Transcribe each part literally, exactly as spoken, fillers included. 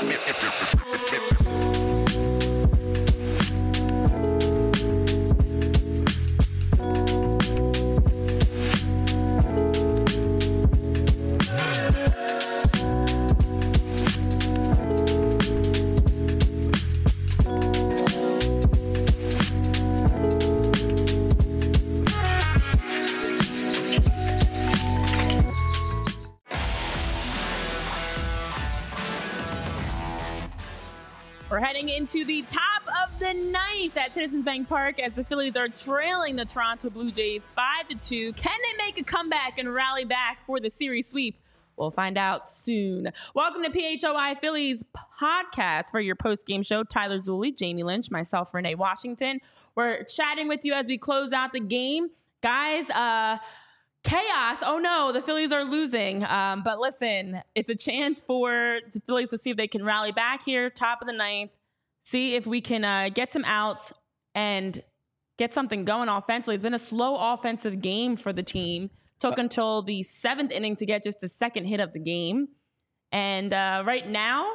We're heading into the top of the ninth at Citizens Bank Park as the Phillies are trailing the Toronto Blue Jays five to two. Can they make a comeback and rally back for the series sweep? We'll find out soon. Welcome to P H O I Phillies podcast for your post-game show. Tyler Zulli, Jamie Lynch, myself, Renee Washington. We're chatting with you as we close out the game. Guys, uh... chaos. Oh no, the Phillies are losing. Um, but listen, it's a chance for the Phillies to see if they can rally back here, top of the ninth, see if we can uh, get some outs and get something going offensively. It's been a slow offensive game for the team. Took until the seventh inning to get just the second hit of the game. And uh, right now,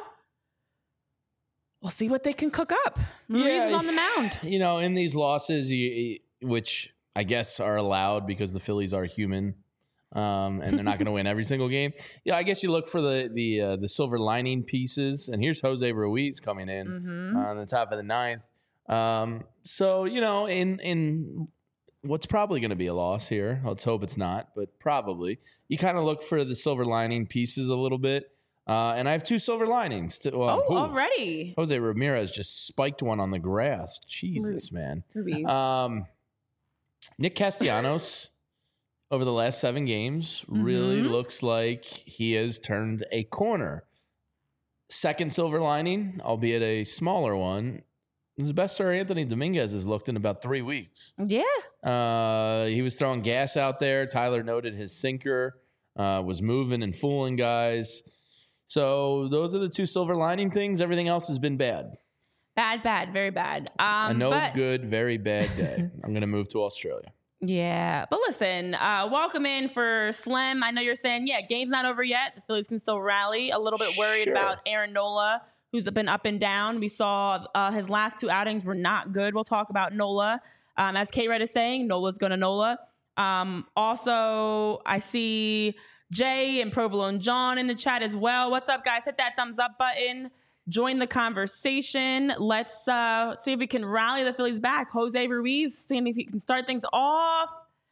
we'll see what they can cook up. Ruiz yeah, is on the mound. You know, in these losses, you, which I guess are allowed because the Phillies are human, um, and they're not going to win every single game. Yeah, I guess you look for the the uh, the silver lining pieces, and here's Jose Ruiz coming in mm-hmm. on the top of the ninth. Um, so you know, in in what's probably going to be a loss here, let's hope it's not, but probably you kind of look for the silver lining pieces a little bit. Uh, and I have two silver linings. To, well, oh, ooh, already! Jose Ramirez just spiked one on the grass. Jesus, man. Ruiz. Um. Nick Castellanos, over the last seven games, really mm-hmm. looks like he has turned a corner. Second silver lining, albeit a smaller one, is the best Sir Anthony Dominguez has looked in about three weeks. Yeah. Uh, he was throwing gas out there. Tyler noted his sinker uh, was moving and fooling guys. So those are the two silver lining things. Everything else has been bad. Bad, bad, very bad. Um, a no but, good, very bad day. I'm going to move to Australia. Yeah. But listen, uh, welcome in for Slim. I know you're saying, yeah, game's not over yet. The Phillies can still rally. A little bit worried sure. about Aaron Nola, who's been up and down. We saw uh, his last two outings were not good. We'll talk about Nola. Um, as K-Red is saying, Nola's going to Nola. Um, also, I see Jay and Provolone John in the chat as well. What's up, guys? Hit that thumbs up button. Join the conversation. Let's uh, see if we can rally the Phillies back. Jose Ruiz, seeing if he can start things off.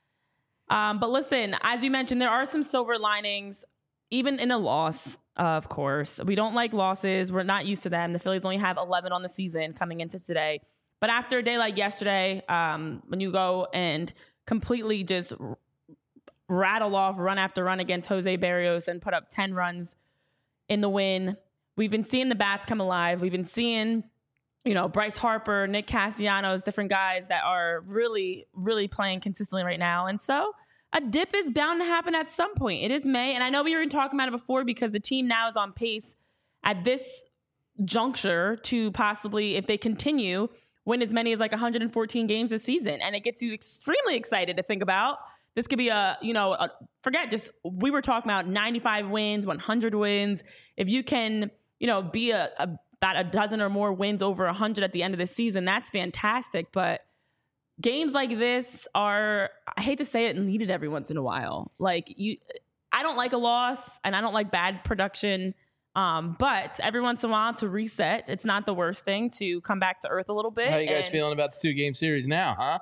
Um, but listen, as you mentioned, there are some silver linings, even in a loss, uh, of course. We don't like losses. We're not used to them. The Phillies only have eleven on the season coming into today. But after a day like yesterday, um, when you go and completely just r- rattle off run after run against Jose Berrios and put up ten runs in the win, we've been seeing the bats come alive. We've been seeing, you know, Bryce Harper, Nick Castellanos, different guys that are really, really playing consistently right now. And so a dip is bound to happen at some point. It is May. And I know we were talking about it before because the team now is on pace at this juncture to possibly, if they continue, win as many as like one hundred fourteen games this season. And it gets you extremely excited to think about. This could be a, you know, a, forget just, we were talking about ninety-five wins, one hundred wins. If you can, you know, be a, a about a dozen or more wins over one hundred at the end of the season, that's fantastic. But games like this are, I hate to say it, needed every once in a while. Like, you, I don't like a loss, and I don't like bad production. Um, but every once in a while to reset, it's not the worst thing to come back to earth a little bit. How you guys and, feeling about the two-game series now, huh?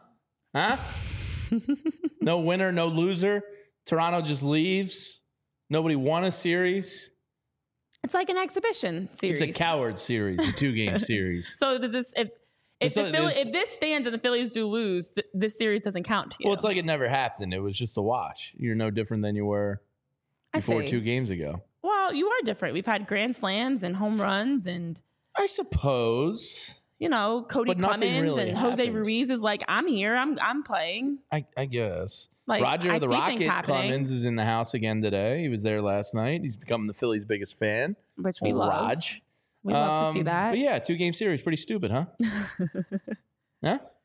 Huh? No winner, no loser. Toronto just leaves. Nobody won a series. It's like an exhibition series. It's a coward series, a two-game series. So does this if if, so the Philly, if this stands and the Phillies do lose, th- this series doesn't count to you. Well, it's like it never happened. It was just a wash. You're no different than you were before two games ago. Well, you are different. We've had grand slams and home runs and I suppose. You know, Cody Clemens really and happened. Jose Ruiz is like, I'm here, I'm I'm playing. I, I guess. Like, Roger I the see Rocket things happening. Clemens is in the house again today. He was there last night. He's become the Phillies' biggest fan. Which we love. Raj. We love um, to see that. But yeah, two-game series. Pretty stupid, huh? Huh?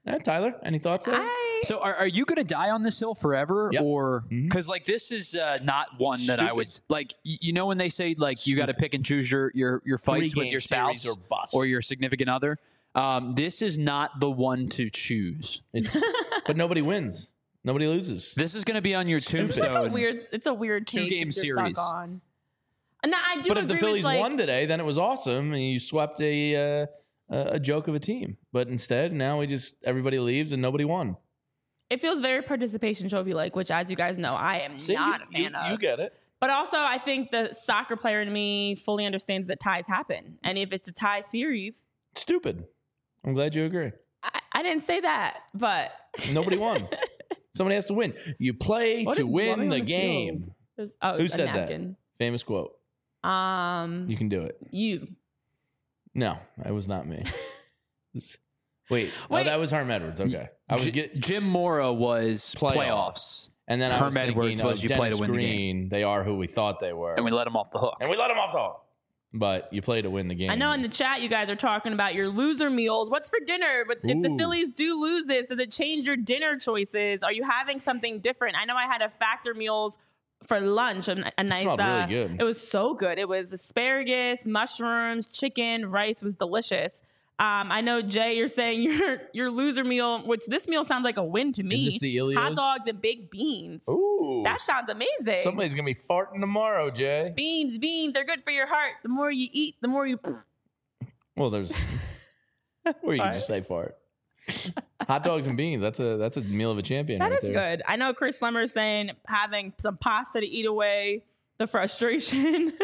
Yeah, Tyler, any thoughts there? I, So are, are you going to die on this hill forever? Yep. Or because like this is uh, not one that I Stupid. would like, y- you know, when they say like you got to pick and choose your, your, your fights with Three-game your spouse series or bust. or your significant other. Um, this is not the one to choose. It's, but nobody wins. Nobody loses. This is going to be on your it's like a tombstone. weird. It's a weird take Two-game that you're series. Stuck on. And I do But if agree the Phillies with, like, won today, then it was awesome, and you swept a uh, a joke of a team. But instead, now we just everybody leaves and nobody won. it feels very participation trophy like, which, as you guys know, I am See, not you, a fan you, of. you get it. But also, I think the soccer player in me fully understands that ties happen, and if it's a tie series, Stupid. I'm glad you agree. I, I didn't say that, but Nobody won. Somebody has to win. You play What to is win blowing the on the game. field? There's- oh, Who a said napkin. that? Famous quote. Um, You can do it. you. No, it was not me. Wait, oh, Wait. that was Herm Edwards. Okay, I was J- get, Jim Mora was Playoffs. playoffs. and then I Herm was thinking, Edwards you know, was you play to Dennis win the game. Green, they are who we thought they were, And we let him off the hook. and we let them off the hook. But you play to win the game. I know in the chat you guys are talking about your loser meals. What's for dinner? But if the Ooh. Phillies do lose this, does it change your dinner choices? Are you having something different? I know I had a Factor Meals for lunch. A, a nice, smelled really uh, good. It was so good. It was asparagus, mushrooms, chicken, rice. Was delicious. Um, I know Jay, you're saying your your loser meal, which this meal sounds like a win to me. Is this the Ilios? Hot dogs and baked beans. Ooh, That sounds amazing. somebody's gonna be farting tomorrow, Jay. Beans, beans, they're good for your heart. The more you eat, the more you. Well, there's or you can just say fart. Hot dogs and beans. That's a that's a meal of a champion. That right is there. good. I know Chris Slemmer is saying having some pasta to eat away the frustration.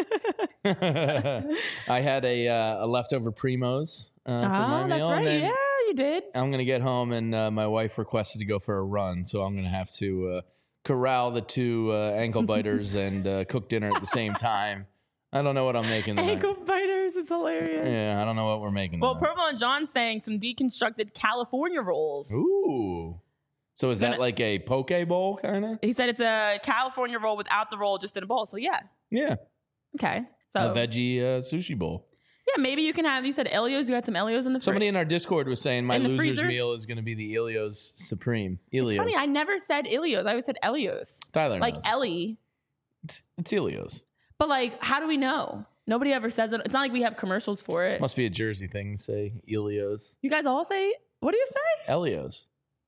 I had a uh, a leftover Primos uh, for my oh, meal. that's right. and then Yeah, you did. I'm gonna get home, and uh, my wife requested to go for a run, so I'm gonna have to uh, corral the two uh, ankle biters and uh, cook dinner at the same time. I don't know what I'm making tonight. Ankle biters is hilarious. Yeah, I don't know what we're making. Well, tonight. Purple and John saying some deconstructed California rolls. Ooh. So is that Gonna- like a poke bowl kind of? He said it's a California roll without the roll, just in a bowl. So yeah, Yeah, okay. So a veggie uh, sushi bowl. yeah, maybe you can have. You said Elios. You got some Elios in the Somebody fridge. in our Discord was saying my In the loser's freezer? meal is going to be the Ilios Supreme. Ilios. It's funny. I never said Elios. I always said Elios. Tyler Like knows. Ellie. it's, it's Ilios. But like, how do we know? Nobody ever says it. It's not like we have commercials for it. Must be a Jersey thing to say Ilios. You guys all say, what do you say? Elios.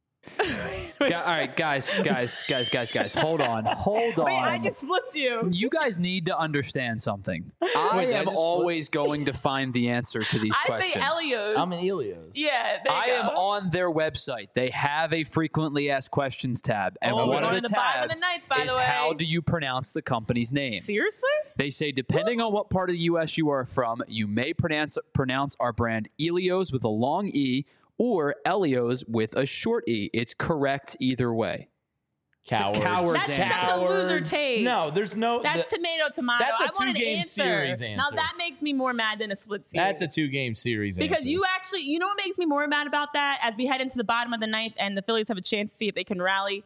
Gu- all right, guys, guys, guys, guys, guys. Hold on. Hold on. Wait, I just flipped you. You guys need to understand something. I Wait, did I am just always going to find the answer to these I questions. say Elios. I'm an Ilios. yeah, there you I go. am on their website. They have a frequently asked questions tab, and Oh, one we're of on the the bottom of tabs the ninth, by is the way. how do you pronounce the company's name? Seriously? They say depending on what part of the U S you are from, you may pronounce pronounce our brand Elios with a long E or Elios with a short E. It's correct either way. Cowards. coward's That's answer. such a loser take. No, there's no. That's the- tomato, tomato. That's a I want an two-game answer. series Now answer. that makes me more mad than a split series. that's a two game series Because answer. you actually, you know what makes me more mad about that? As we head into the bottom of the ninth and the Phillies have a chance to see if they can rally.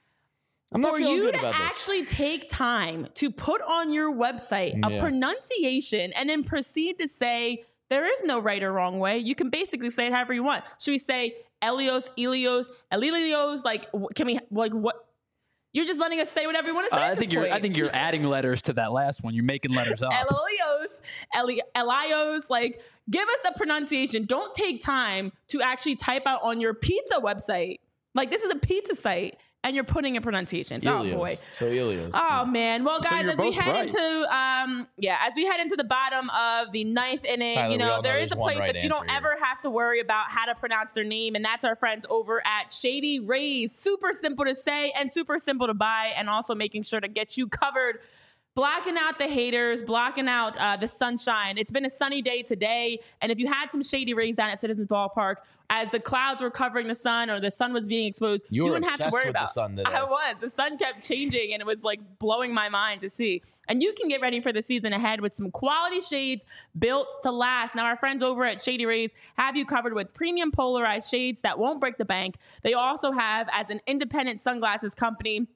I'm not For feeling you good to about this. actually take time to put on your website a Yeah. pronunciation and then proceed to say there is no right or wrong way. You can basically say it however you want. Should we say Elios, Elios, Elilios? Like, wh- can we, like, what? You're just letting us say whatever you want to Uh, say. I at think this you're. I point. think you're adding letters to that last one. You're making letters up. Elios, Eli- Elios, like, give us a pronunciation. Don't take time to actually type out on your pizza website. Like, this is a pizza site, and you're putting in pronunciations. Ilios. Oh, boy. So Ilios. Oh man! Well, So guys, you're as we both head right. into um, yeah, as we head into the bottom of the ninth inning, Tyler, you we know, all know there is there's a one place right that you don't answer here. ever have to worry about how to pronounce their name, and that's our friends over at Shady Rays. Super simple to say and super simple to buy, and also making sure to get you covered. Blocking out the haters, blocking out uh, the sunshine. It's been a sunny day today. And if you had some Shady Rays down at Citizens Ballpark, as the clouds were covering the sun or the sun was being exposed, You were wouldn't have to obsessed worry with the about sun today. I was. The sun kept changing and it was like blowing my mind to see. And you can get ready for the season ahead with some quality shades built to last. Now, our friends over at Shady Rays have you covered with premium polarized shades that won't break the bank. They also have, as an independent sunglasses company,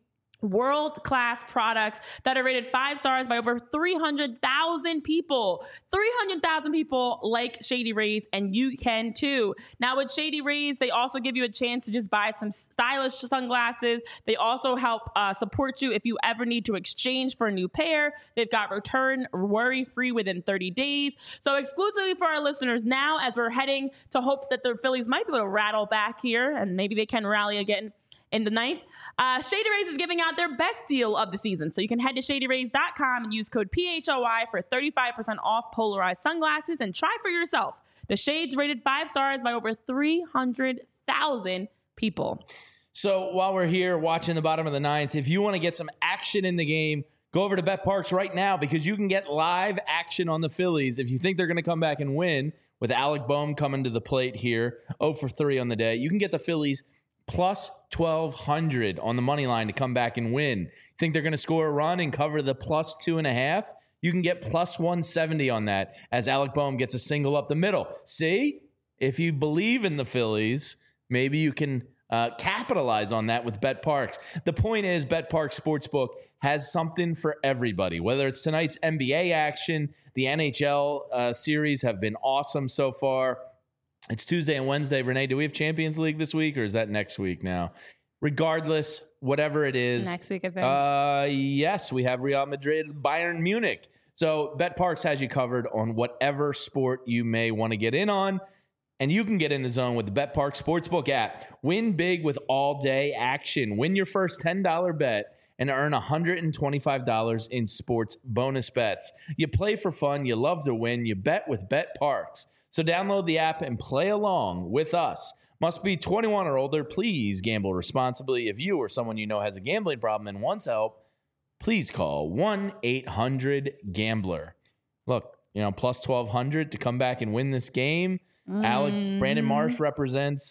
world-class products that are rated five stars by over three hundred thousand people. three hundred thousand people like Shady Rays, and you can too. Now with Shady Rays, they also give you a chance to just buy some stylish sunglasses. They also help uh, support you if you ever need to exchange for a new pair. They've got return worry-free within thirty days. So exclusively for our listeners now, as we're heading to hope that the Phillies might be able to rattle back here, and maybe they can rally again in the ninth, uh, Shady Rays is giving out their best deal of the season. So you can head to shady rays dot com and use code P H O Y for thirty-five percent off polarized sunglasses and try for yourself. The shades rated five stars by over three hundred thousand people. So while we're here watching the bottom of the ninth, if you want to get some action in the game, go over to BetParx right now because you can get live action on the Phillies. If you think they're going to come back and win, with Alec Bohm coming to the plate here, oh for three on the day, you can get the Phillies plus twelve hundred on the money line to come back and win. Think they're going to score a run and cover the plus two and a half? You can get plus one seventy on that as Alec Bohm gets a single up the middle. See, if you believe in the Phillies, maybe you can uh, capitalize on that with BetParx. The point is, BetParx Sportsbook has something for everybody. Whether it's tonight's N B A action, the N H L uh, series have been awesome so far. It's Tuesday and Wednesday. Renee, do we have Champions League this week or is that next week now? Regardless, whatever it is. Next week, I think. Uh, yes, we have Real Madrid, Bayern Munich. So BetParx has you covered on whatever sport you may want to get in on. And you can get in the zone with the BetParx Sportsbook app. Win big with all-day action. Win your first ten dollars bet and earn one hundred twenty-five dollars in sports bonus bets. You play for fun. You love to win. You bet with BetParx. So download the app and play along with us. Must be twenty-one or older. Please gamble responsibly. If you or someone you know has a gambling problem and wants help, please call one eight hundred gambler. Look, you know, plus twelve hundred to come back and win this game. Mm. Alec Brandon Marsh represents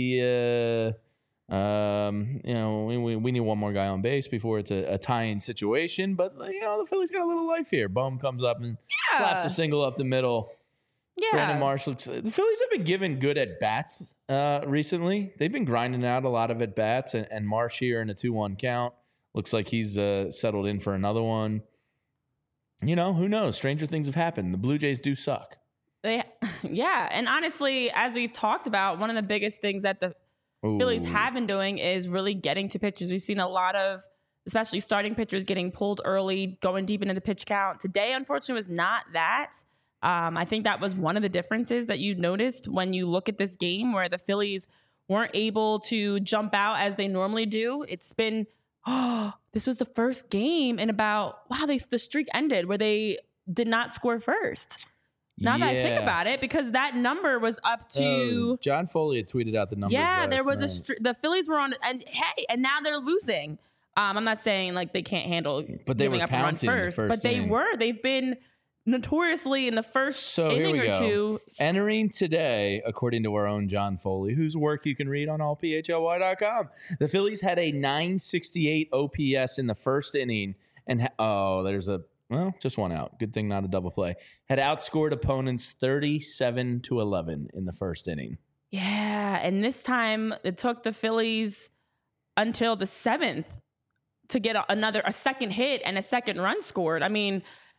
the, uh, um, you know, we, we, we need one more guy on base before it's a, a tying situation. But, you know, the Phillies got a little life here. Bohm comes up and yeah. slaps a single up the middle. Yeah. Brandon Marsh looks. The Phillies have been given good at bats uh, recently. They've been grinding out a lot of at bats, and, and Marsh here in a two one count looks like he's uh, settled in for another one. You know, who knows? Stranger things have happened. The Blue Jays do suck. They, yeah, and honestly, as we've talked about, one of the biggest things that the Ooh. Phillies have been doing is really getting to pitchers. We've seen a lot of, especially starting pitchers, getting pulled early, going deep into the pitch count. Today, unfortunately, was not that. Um, I think that was one of the differences that you noticed when you look at this game where the Phillies weren't able to jump out as they normally do. It's been, oh, this was the first game in about, wow, they, the streak ended where they did not score first. Now yeah. that I think about it, because that number was up to... Oh, John Foley had tweeted out the numbers. Yeah, there was night. a... Str- the Phillies were on... And hey, and now they're losing. Um, I'm not saying like they can't handle but they giving were up a run first, first but they inning. were. They've been... notoriously in the first so inning or go. two. Entering today, according to our own John Foley, whose work you can read on all P H L Y dot com, the Phillies had a nine sixty-eight O P S in the first inning. And, ha- oh, there's a, well, just one out. Good thing not a double play. Had outscored opponents thirty-seven to eleven in the first inning. Yeah. And this time it took the Phillies until the seventh to get a, another, a second hit and a second run scored. I mean,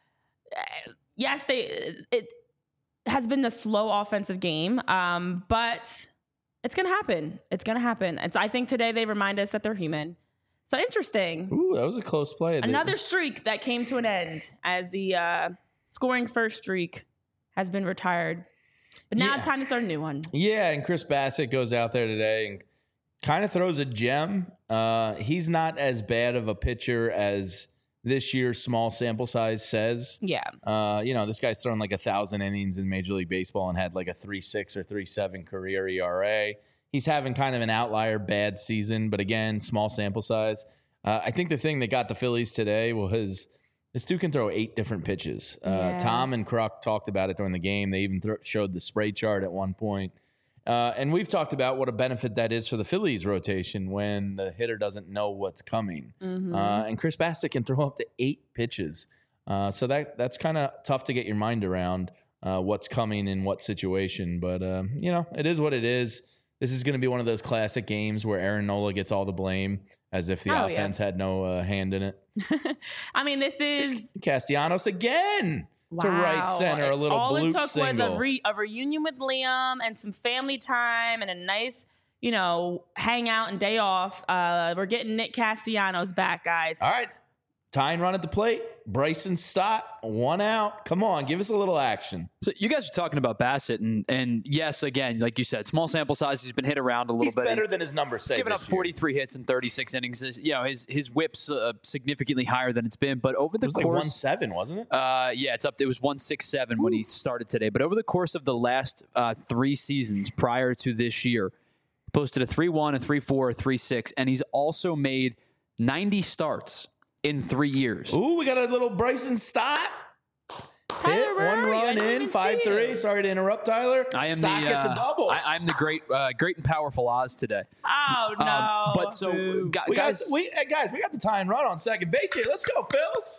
yes, they it has been the slow offensive game, um, but it's gonna happen. It's gonna happen. It's. I think today they remind us that they're human. So interesting. Ooh, that was a close play. Another streak that came to an end as the uh, scoring first streak has been retired. But now yeah. it's time to start a new one. Yeah, and Chris Bassett goes out there today and kind of throws a gem. Uh, he's not as bad of a pitcher as this year's small sample size says. Yeah. Uh, you know, this guy's thrown like a thousand innings in Major League Baseball and had like a three six or three seven career E R A. He's having kind of an outlier bad season, but again, small sample size. Uh, I think the thing that got the Phillies today was this dude can throw eight different pitches. Uh, Yeah. Tom and Kruk talked about it during the game. They even th- showed the spray chart at one point. Uh, and we've talked about what a benefit that is for the Phillies rotation when the hitter doesn't know what's coming. Mm-hmm. Uh, and Chris Bassett can throw up to eight pitches. Uh, so that that's kind of tough to get your mind around uh, what's coming in what situation. But, uh, you know, it is what it is. this is going to be one of those classic games where Aaron Nola gets all the blame as if the Oh, offense had no uh, hand in it. I mean, this is Castellanos again to right wow. center, a little All bloop it took single. was a, re- a reunion with Liam and some family time and a nice, you know, hangout and day off. Uh, we're getting Nick Castellanos back, guys. All right. Tying run at the plate. Bryson Stott, one out. Come on, give us a little action. So you guys are talking about Bassett, and and yes, again, like you said, small sample size. He's been hit around a little He's bit. better he's, than his numbers say. He's given up this year. forty-three hits in thirty-six innings. This- You know, his his whip's uh, significantly higher than it's been. But over the It was like one course, seven, wasn't it? uh, yeah, it's up. It was one six seven when he started today. But over the course of the last uh, three seasons prior to this year, posted a three one, a three four, a three six, and he's also made ninety starts in three years. Ooh, we got a little Bryson Stott. Tyler, Hit, where one are you? I run didn't in, even five see three. you. Sorry to interrupt, Tyler. I am Stott the gets uh, a double. I, I'm the great, uh, great and powerful Oz today. Oh, no. Um, but so, Boo. gu- we guys, got, we, hey, guys, we got the tie and run on second base here. Let's go, Phils.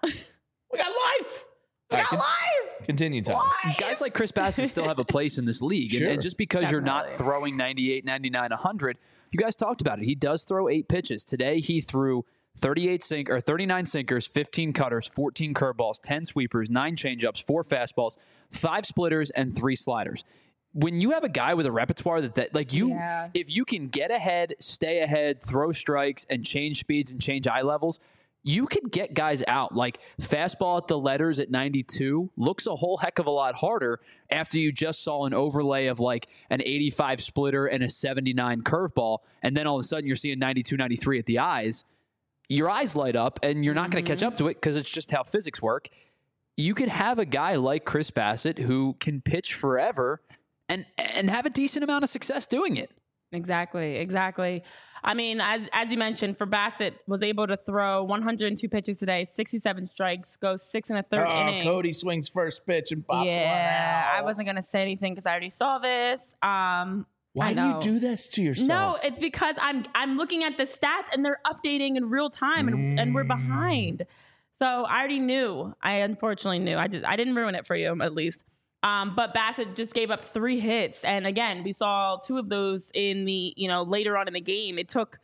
We got life. We We got got life. Continue, Tyler. guys like Chris Bassett still have a place in this league. And, Sure. and just because you're not Definitely. throwing ninety-eight, ninety-nine, one hundred, you guys talked about it. He does throw eight pitches. Today, he threw thirty-eight sink or thirty-nine sinkers, fifteen cutters, fourteen curveballs, ten sweepers, nine changeups, four fastballs, five splitters, and three sliders. When you have a guy with a repertoire that, that like you, Yeah. if you can get ahead, stay ahead, throw strikes, and change speeds and change eye levels, you could get guys out. Like fastball at the letters at ninety-two looks a whole heck of a lot harder after you just saw an overlay of like an eighty-five splitter and a seventy-nine curveball. And then all of a sudden you're seeing ninety-two, ninety-three at the eyes. Your eyes light up and you're not going to catch up to it because it's just how physics work. You could have a guy like Chris Bassett who can pitch forever and and have a decent amount of success doing it. Exactly, exactly. I mean, as as you mentioned, for Bassett, was able to throw one hundred two pitches today, sixty-seven strikes, go six and a third Oh, inning. Cody swings first pitch and pops one yeah, out. I wasn't gonna say anything because I already saw this. Um, Why I do you know. do this to yourself? No, it's because I'm I'm looking at the stats and they're updating in real time and, and we're behind. So I already knew. I unfortunately knew. I just I didn't ruin it for you at least. Um, but Bassett just gave up three hits, and again, we saw two of those in the you know later on in the game. It took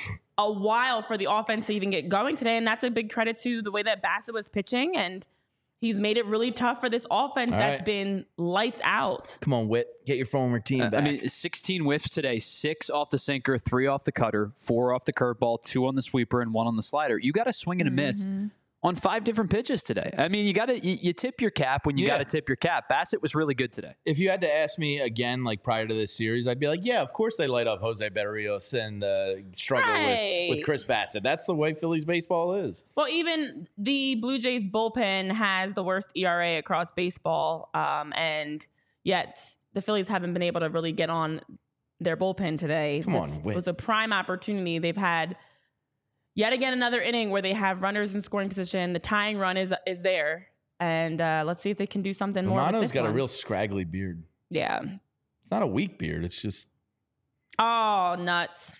a while for the offense to even get going today, and that's a big credit to the way that Bassett was pitching, and he's made it really tough for this offense All that's right. been lights out. Come on, Whit. Get your former team Uh, back. I mean, sixteen whiffs today, six off the sinker, three off the cutter, four off the curveball, two on the sweeper, and one on the slider. You got to swing and a miss on five different pitches today. I mean, you got to you, you tip your cap when you Yeah. got to tip your cap. Bassett was really good today. if you had to ask me again, like prior to this series, I'd be like, yeah, of course they light up Jose Berrios and uh, struggle Right. with, with Chris Bassett. That's the way Phillies baseball is. Well, even the Blue Jays bullpen has the worst E R A across baseball, um, and yet the Phillies haven't been able to really get on their bullpen today. Come on, This Whit. was a prime opportunity. They've had yet again another inning where they have runners in scoring position. The tying run is is there, and uh, let's see if they can do something more. with Romano's this got one. a real scraggly beard. yeah. It's not a weak beard. It's just, Oh, nuts!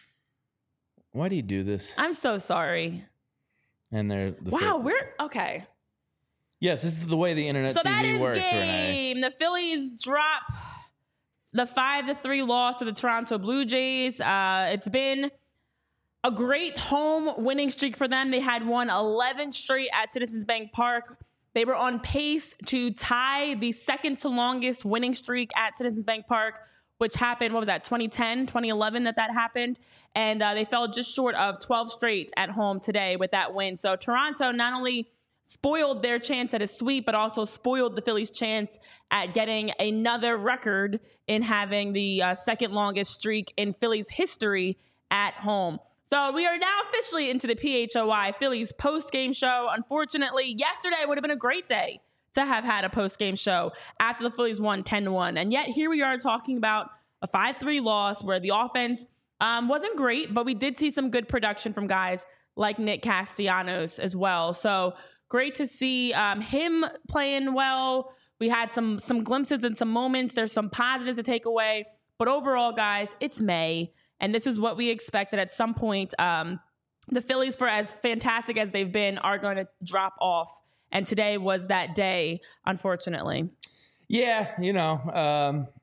why do you do this? I'm so sorry. And they're the Wow, Phil- we're okay. yes, this is the way the internet So T V that is works, Renee. game. The Phillies drop the five to three loss to the Toronto Blue Jays. Uh, it's been a great home winning streak for them. They had won eleven straight at Citizens Bank Park. They were on pace to tie the second to longest winning streak at Citizens Bank Park, which happened, what was that, twenty ten, twenty eleven that that happened. And uh, they fell just short of twelve straight at home today with that win. So Toronto not only spoiled their chance at a sweep, but also spoiled the Phillies' chance at getting another record in having the uh, second longest streak in Phillies history at home. So we are now officially into the P H O I Phillies post-game show. Unfortunately, yesterday would have been a great day to have had a post-game show after the Phillies won ten to one. And yet here we are talking about a five three loss where the offense um, wasn't great, but we did see some good production from guys like Nick Castellanos as well. So great to see um, him playing well. We had some some glimpses and some moments. There's some positives to take away. But overall, guys, it's May. And this is what we expected at some point. Um, the Phillies, for as fantastic as they've been, are going to drop off. And today was that day, unfortunately. Yeah, you know, um,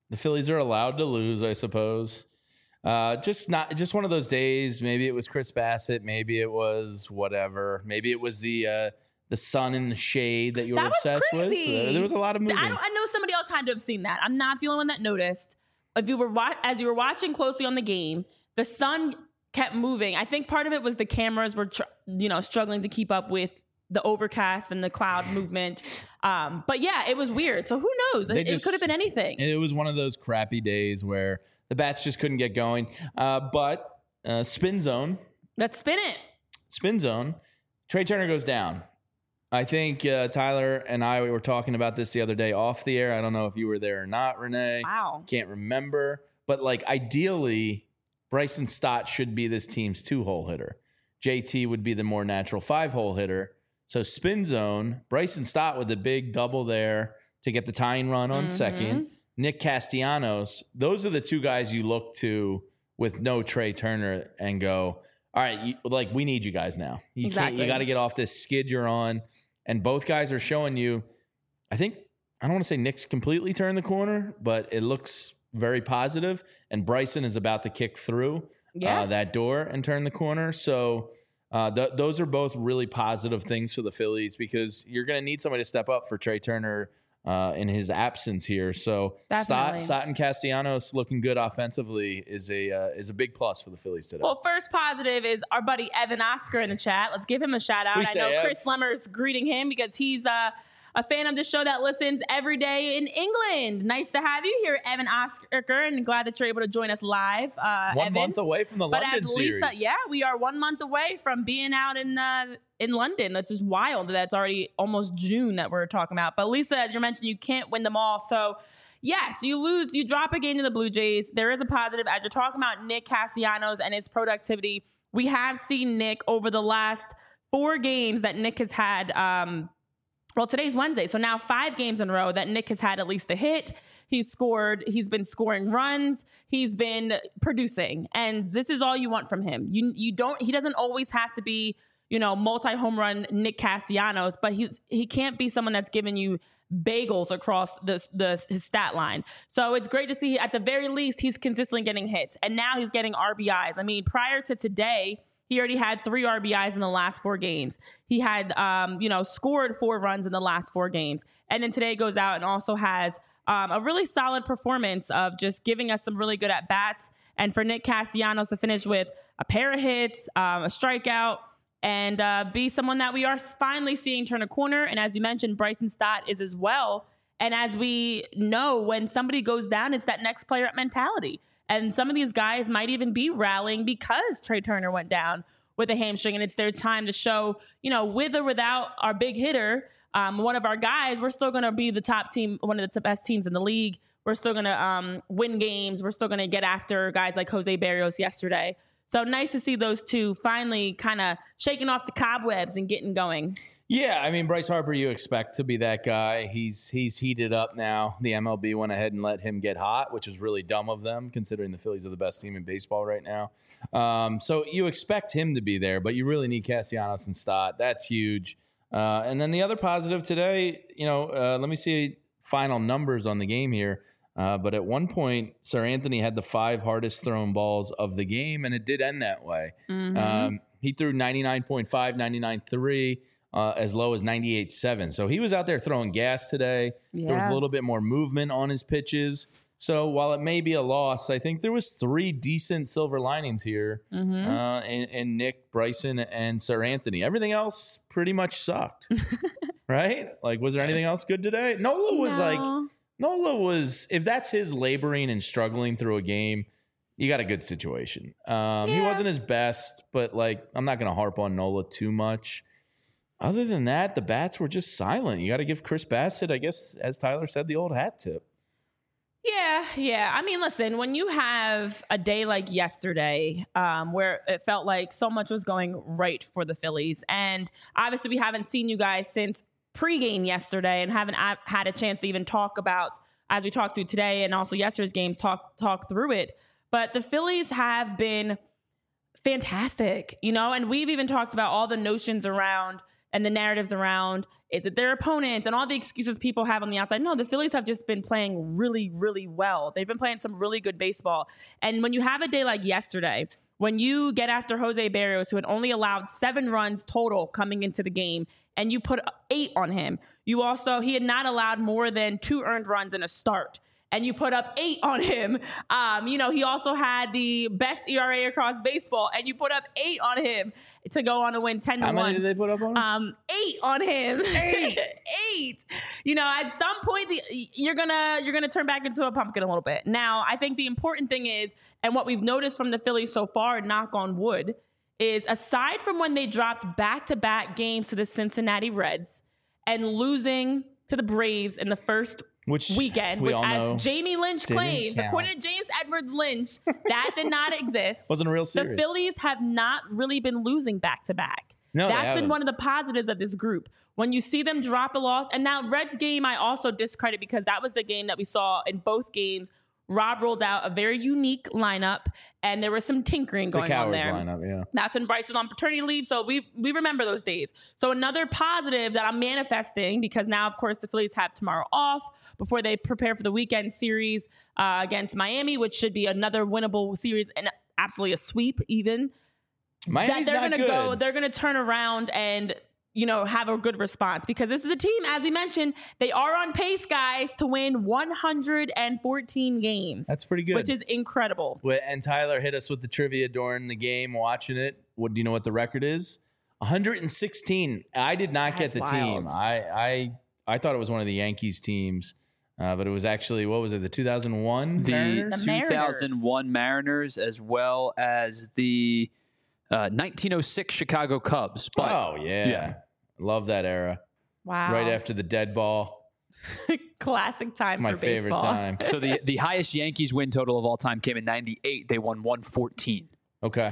the Phillies are allowed to lose, I suppose. Uh, just not just one of those days. Maybe it was Chris Bassett. Maybe it was whatever. Maybe it was the uh, the sun and the shade that you were That was obsessed crazy. with. Uh, there was a lot of moving. I, don't, I know somebody else had to have seen that. I'm not the only one that noticed. If you were wa- as you were watching closely on the game, the sun kept moving. I think part of it was the cameras were, tr- you know, struggling to keep up with the overcast and the cloud movement. Um, but yeah, it was weird. So who knows? It, just- it could have been anything. It was one of those crappy days where the bats just couldn't get going. Uh, but uh, spin zone, Let's spin it. spin zone. Trey Turner goes down. I think uh, Tyler and I we were talking about this the other day off the air. I don't know if you were there or not, Renee. Wow. Can't remember. But like ideally, Bryson Stott should be this team's two-hole hitter. J T would be the more natural five-hole hitter. So spin zone, Bryson Stott with the big double there to get the tying run on Mm-hmm. second. Nick Castellanos, those are the two guys you look to with no Trey Turner and go, all right, you, like we need you guys now. You can't. Exactly. You got to get off this skid you're on. And both guys are showing you. I think I don't want to say Nick's completely turned the corner, but it looks very positive. And Bryson is about to kick through Yeah. uh, that door and turn the corner. So uh, th- those are both really positive things for the Phillies because you're going to need somebody to step up for Trey Turner uh, in his absence here. So Stott, Definitely. Stott and Castellanos looking good offensively is a uh, is a big plus for the Phillies today. Well, first positive is our buddy Evan Oscar in the chat. Let's give him a shout out. We I say know Ev. Chris Lemmer's greeting him because he's uh, a fan of the show that listens every day in England. Nice to have you here, Evan Oscar, and glad that you're able to join us live. Uh, One Evan. month away from the But London as Lisa, series. yeah, we are one month away from being out in uh, in London. That's just wild. That's already almost June that we're talking about. But Lisa, as you mentioned, you can't win them all. So yes, you lose, you drop a game to the Blue Jays. There is a positive. As you're talking about Nick Castellanos and his productivity, we have seen Nick over the last four games that Nick has had. Um, well, today's Wednesday, so now five games in a row that Nick has had at least a hit. He's scored. He's been scoring runs. He's been producing, and this is all you want from him. You you don't. He doesn't always have to be, you know, multi home run Nick Castellanos, but he's he can't be someone that's giving you bagels across the the his stat line. So it's great to see. At the very least, he's consistently getting hits, and now he's getting R B Is. I mean, prior to today, he already had three R B Is in the last four games. He had, um, you know, scored four runs in the last four games. And then today goes out and also has um, a really solid performance of just giving us some really good at-bats. And for Nick Castellanos to finish with a pair of hits, um, a strikeout, and uh, be someone that we are finally seeing turn a corner. And as you mentioned, Bryson Stott is as well. And as we know, when somebody goes down, it's that next player up mentality. And some of these guys might even be rallying because Trey Turner went down with a hamstring, and it's their time to show, you know, with or without our big hitter, um, one of our guys, we're still going to be the top team, one of the best teams in the league. We're still going to um, win games. We're still going to get after guys like Jose Barrios yesterday. So nice to see those two finally kind of shaking off the cobwebs and getting going. Yeah, I mean, Bryce Harper, you expect to be that guy. He's he's heated up now. The M L B went ahead and let him get hot, which is really dumb of them, considering the Phillies are the best team in baseball right now. Um, so you expect him to be there, but you really need Castellanos and Stott. That's huge. Uh, and then the other positive today, you know, uh, let me see final numbers on the game here. Uh, but at one point, Sir Anthony had the five hardest thrown balls of the game, and it did end that way. Mm-hmm. Um, he threw ninety-nine point five, ninety-nine point three. Uh, as low as ninety-eight point seven. So he was out there throwing gas today. Yeah. There was a little bit more movement on his pitches. So while it may be a loss, I think there was three decent silver linings here Mm-hmm. uh, in, in Nick, Bryson, and Sir Anthony. Everything else pretty much sucked, right? Like, was there anything else good today? Nola was No. like, Nola was, if that's his laboring and struggling through a game, you got a good situation. Um, He Yeah. wasn't his best, but like, I'm not going to harp on Nola too much. Other than that, the bats were just silent. You got to give Chris Bassett, I guess, as Tyler said, the old hat tip. Yeah, yeah. I mean, listen, when you have a day like yesterday, um, where it felt like so much was going right for the Phillies, and obviously we haven't seen you guys since pregame yesterday and haven't a- had a chance to even talk about, as we talked through today and also yesterday's games, talk talk through it. But the Phillies have been fantastic, you know, and we've even talked about all the notions around and the narratives around Is it their opponents and all the excuses people have on the outside? No, the Phillies have just been playing really, really well. They've been playing some really good baseball. And when you have a day like yesterday, when you get after Jose Barrios, who had only allowed seven runs total coming into the game, and you put eight on him, you also, he had not allowed more than two earned runs in a start, and you put up eight on him. Um, you know, he also had the best E R A across baseball, and you put up eight on him to go on to win ten to How one. many did they put up on him? Um, eight on him. Eight. Eight. You know, at some point, the, you're gonna you're gonna turn back into a pumpkin a little bit. Now, I think the important thing is, and what we've noticed from the Phillies so far, knock on wood, is aside from when they dropped back-to-back games to the Cincinnati Reds and losing to the Braves in the first Which weekend, we which all as know Jamie Lynch didn't claims, count. according to James Edwards Lynch, that did not exist. wasn't a real The series. Phillies have not really been losing back-to-back. No, they That's been haven't. one of the positives of this group. When you see them drop a loss, and now Reds game I also discredit because that was the game that we saw in both games. Rob rolled out a very unique lineup, and there was some tinkering the going on Cowards there. lineup, yeah. That's when Bryce was on paternity leave, so we we remember those days. So another positive that I'm manifesting, because now, of course, the Phillies have tomorrow off before they prepare for the weekend series uh, against Miami, which should be another winnable series and absolutely a sweep even. Miami's that they're not gonna good. go, they're gonna turn around and, you know, have a good response, because this is a team, as we mentioned, they are on pace, guys, to win one hundred fourteen games. That's pretty good. Which is incredible. Well, and Tyler hit us with the trivia during the game, watching it. What do you know what the record is? one hundred sixteen. I did not get That's the wild. team. I, I I thought it was one of the Yankees teams, uh, but it was actually, what was it, the two thousand one The Mariners? The Mariners. two thousand one Mariners, as well as the uh, nineteen oh six Chicago Cubs. But oh, yeah. yeah. Love that era. Wow. Right after the dead ball. Classic time My for favorite baseball. time. so the the highest Yankees win total of all time came in ninety-eight. They won one fourteen. Okay.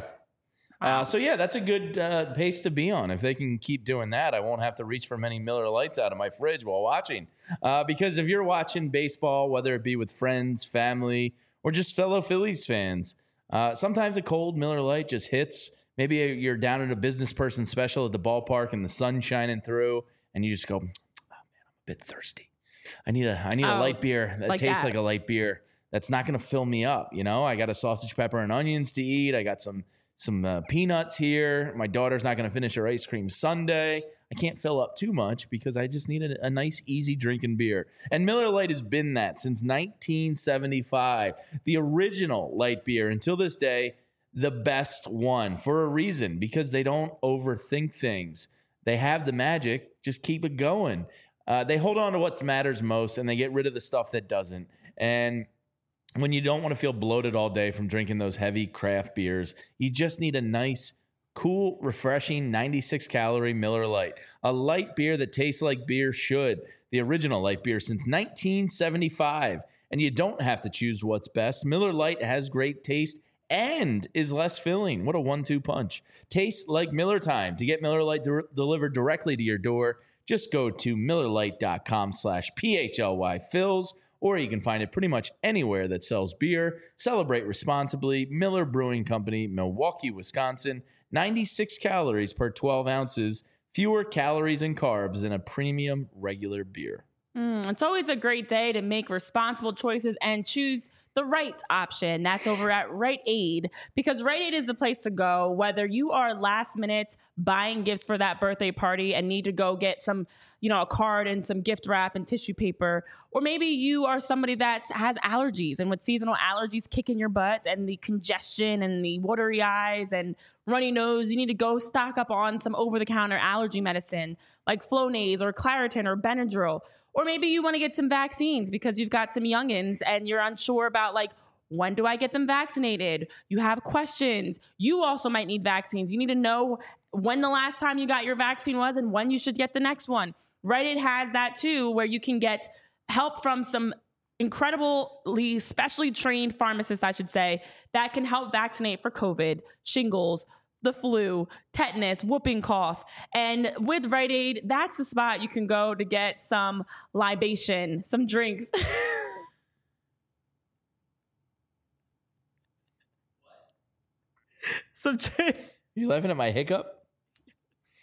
Uh, so, yeah, that's a good uh, pace to be on. If they can keep doing that, I won't have to reach for many Miller Lights out of my fridge while watching. Uh, because if you're watching baseball, whether it be with friends, family, or just fellow Phillies fans, uh, sometimes a cold Miller Lite just hits. Maybe you're down at a business person special at the ballpark and the sun's shining through, and you just go, oh, man, I'm a bit thirsty. I need a I need a Oh, light beer that like tastes that. like a light beer. That's not going to fill me up. You know, I got a sausage, pepper, and onions to eat. I got some some uh, peanuts here. My daughter's not going to finish her ice cream sundae. I can't fill up too much because I just need a, a nice, easy drinking beer. And Miller Lite has been that since nineteen seventy-five. The original light beer until this day, the best one for a reason, because they don't overthink things. They have the magic. Just keep it going. Uh, they hold on to what matters most, and they get rid of the stuff that doesn't. And when you don't want to feel bloated all day from drinking those heavy craft beers, you just need a nice, cool, refreshing ninety-six calorie Miller Lite. A light beer that tastes like beer should. The original light beer since nineteen seventy-five. And you don't have to choose what's best. Miller Lite has great taste and is less filling. What a one two punch. Tastes like Miller time. To get Miller Lite de- delivered directly to your door, just go to millerlite.com slash PHLY Phils, or you can find it pretty much anywhere that sells beer. Celebrate responsibly. Miller Brewing Company, Milwaukee, Wisconsin. ninety-six calories per twelve ounces. Fewer calories and carbs than a premium regular beer. Mm, it's always a great day to make responsible choices and choose the right option. That's over at Rite Aid, because Rite Aid is the place to go, whether you are last minute buying gifts for that birthday party and need to go get some, you know, a card and some gift wrap and tissue paper, or maybe you are somebody that has allergies, and with seasonal allergies kicking your butt and the congestion and the watery eyes and runny nose, you need to go stock up on some over-the-counter allergy medicine like Flonase or Claritin or Benadryl. Or maybe you want to get some vaccines because you've got some youngins and you're unsure about, like, when do I get them vaccinated? You have questions. You also might need vaccines. You need to know when the last time you got your vaccine was and when you should get the next one. Rite Aid has that too, where you can get help from some incredibly specially trained pharmacists, I should say, that can help vaccinate for COVID, shingles, the flu, tetanus, whooping cough. And with Rite Aid, that's the spot you can go to get some libation, some drinks. some drinks. You laughing at my hiccup?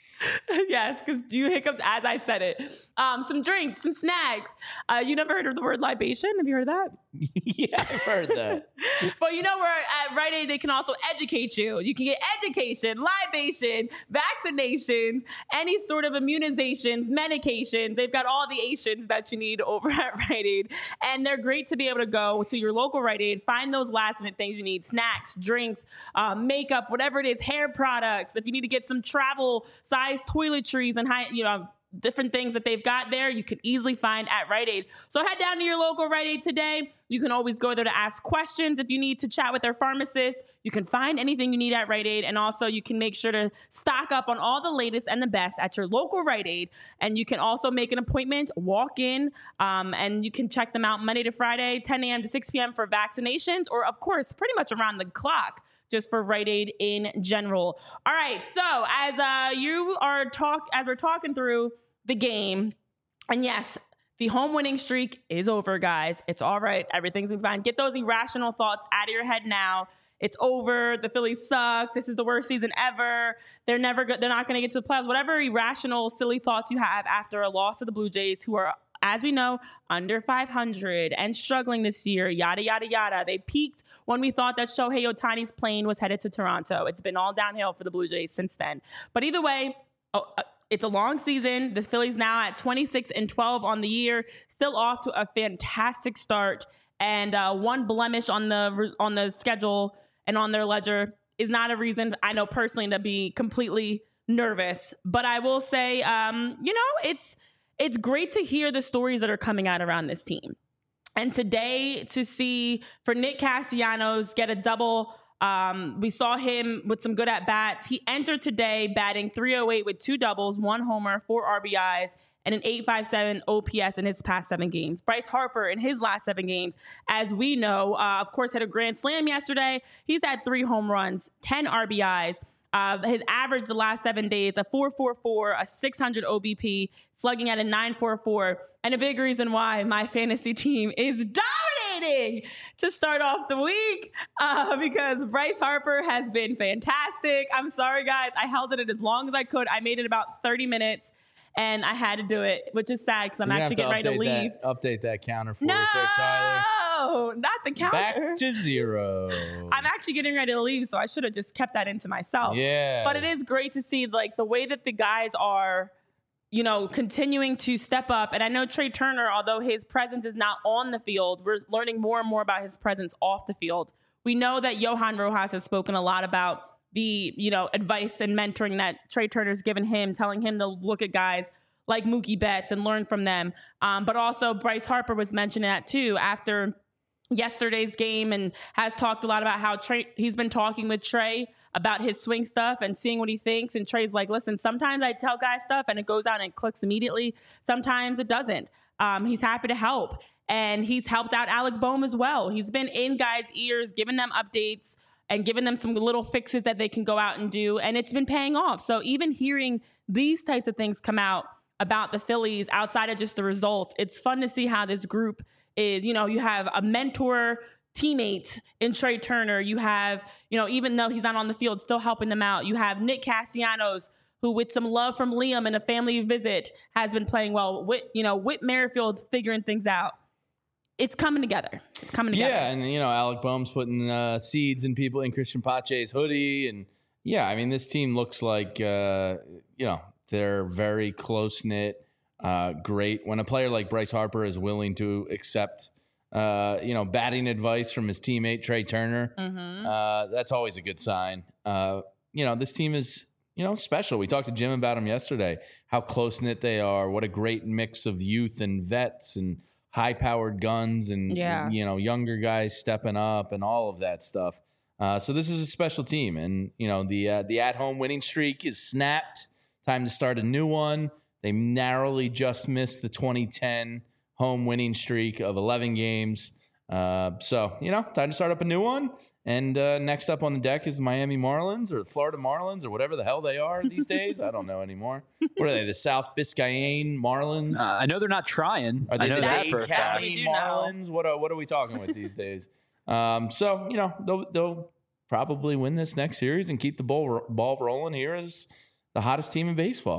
Yes, because you hiccuped as I said it. Um, some drinks, some snacks. Uh, you never heard of the word libation? Have you heard of that? Yeah, I've heard that. But you know where at Rite Aid they can also educate you. You can get education, libation, vaccinations, any sort of immunizations, medications. They've got all the Asians that you need over at Rite Aid. And they're great to be able to go to your local Rite Aid, find those last minute things you need, snacks, drinks, uh, makeup, whatever it is, hair products. If you need to get some travel size toiletries and high, you know, different things that they've got there, you can easily find at Rite Aid. So head down to your local Rite Aid today. You can always go there to ask questions if you need to chat with their pharmacist. You can find anything you need at Rite Aid. And also you can make sure to stock up on all the latest and the best at your local Rite Aid. And you can also make an appointment, walk in, um, and you can check them out Monday to Friday, ten a.m. to six p.m. for vaccinations, or of course, pretty much around the clock, just for Rite Aid in general. All right, so as uh, you are talk, as we're talking through the game, and yes, the home winning streak is over, guys. It's all right. Everything's fine. Get those irrational thoughts out of your head now. It's over. The Phillies suck. This is the worst season ever. They're never good. They're not going to get to the playoffs. Whatever irrational, silly thoughts you have after a loss to the Blue Jays, who are, as we know, under five hundred and struggling this year, yada, yada, yada. They peaked when we thought that Shohei Ohtani's plane was headed to Toronto. It's been all downhill for the Blue Jays since then. But either way, oh, uh, it's a long season. The Phillies now at twenty-six and twelve on the year, still off to a fantastic start. And uh, one blemish on the on the schedule and on their ledger is not a reason, I know personally, to be completely nervous. But I will say, um, you know, it's it's great to hear the stories that are coming out around this team. And today, to see for Nick Castellanos get a double. Um, we saw him with some good at-bats. He entered today batting three oh eight with two doubles, one homer, four R B Is, and an eight five seven O P S in his past seven games. Bryce Harper in his last seven games, as we know, uh, of course, had a grand slam yesterday. He's had three home runs, ten R B Is. Uh, his average the last seven days, a four four four, a six hundred O B P, slugging at a nine four four. And a big reason why my fantasy team is dominating to start off the week uh, because Bryce Harper has been fantastic. I'm sorry, guys. I held it as long as I could. I made it about thirty minutes. And I had to do it, which is sad because I'm actually getting ready to leave. That, update that counter for no, us there, Tyler. No, not the counter. Back to zero. I'm actually getting ready to leave, so I should have just kept that into myself. Yeah. But it is great to see like the way that the guys are, you know, continuing to step up. And I know Trey Turner, although his presence is not on the field, we're learning more and more about his presence off the field. We know that Johan Rojas has spoken a lot about the, you know, advice and mentoring that Trey Turner's given him, telling him to look at guys like Mookie Betts and learn from them. Um, but also Bryce Harper was mentioning that too after yesterday's game and has talked a lot about how Trey, he's been talking with Trey about his swing stuff and seeing what he thinks. And Trey's like, listen, sometimes I tell guys stuff and it goes out and it clicks immediately. Sometimes it doesn't. Um, he's happy to help. And he's helped out Alec Bohm as well. He's been in guys' ears, giving them updates and giving them some little fixes that they can go out and do. And it's been paying off. So even hearing these types of things come out about the Phillies outside of just the results, it's fun to see how this group is, you know, you have a mentor teammate in Trey Turner. You have, you know, even though he's not on the field, still helping them out. You have Nick Castellanos, who with some love from Liam and a family visit has been playing well. Whit, you know, Whit Merrifield's figuring things out. It's coming together. It's coming together. Yeah, and, you know, Alec Bohm's putting uh, seeds in people in Christian Pache's hoodie. And, yeah, I mean, this team looks like, uh, you know, they're very close-knit, uh, great. When a player like Bryce Harper is willing to accept, uh, you know, batting advice from his teammate, Trey Turner, mm-hmm. uh, that's always a good sign. Uh, you know, this team is, you know, special. We talked to Jim about them yesterday, how close-knit they are, what a great mix of youth and vets and high-powered guns and, yeah. you know, younger guys stepping up and all of that stuff. Uh, so this is a special team. And, you know, the uh, the at-home winning streak is snapped. Time to start a new one. They narrowly just missed the twenty ten home winning streak of eleven games. Uh, so, you know, time to start up a new one. And uh, next up on the deck is the Miami Marlins or the Florida Marlins or whatever the hell they are these days. I don't know anymore. What are they, the South Biscayne Marlins? Uh, I know they're not trying. Are they I know the that Dade for a fact. County Marlins? What are, what are we talking with these days? Um, so, you know, they'll, they'll probably win this next series and keep the ball, ball rolling here as the hottest team in baseball.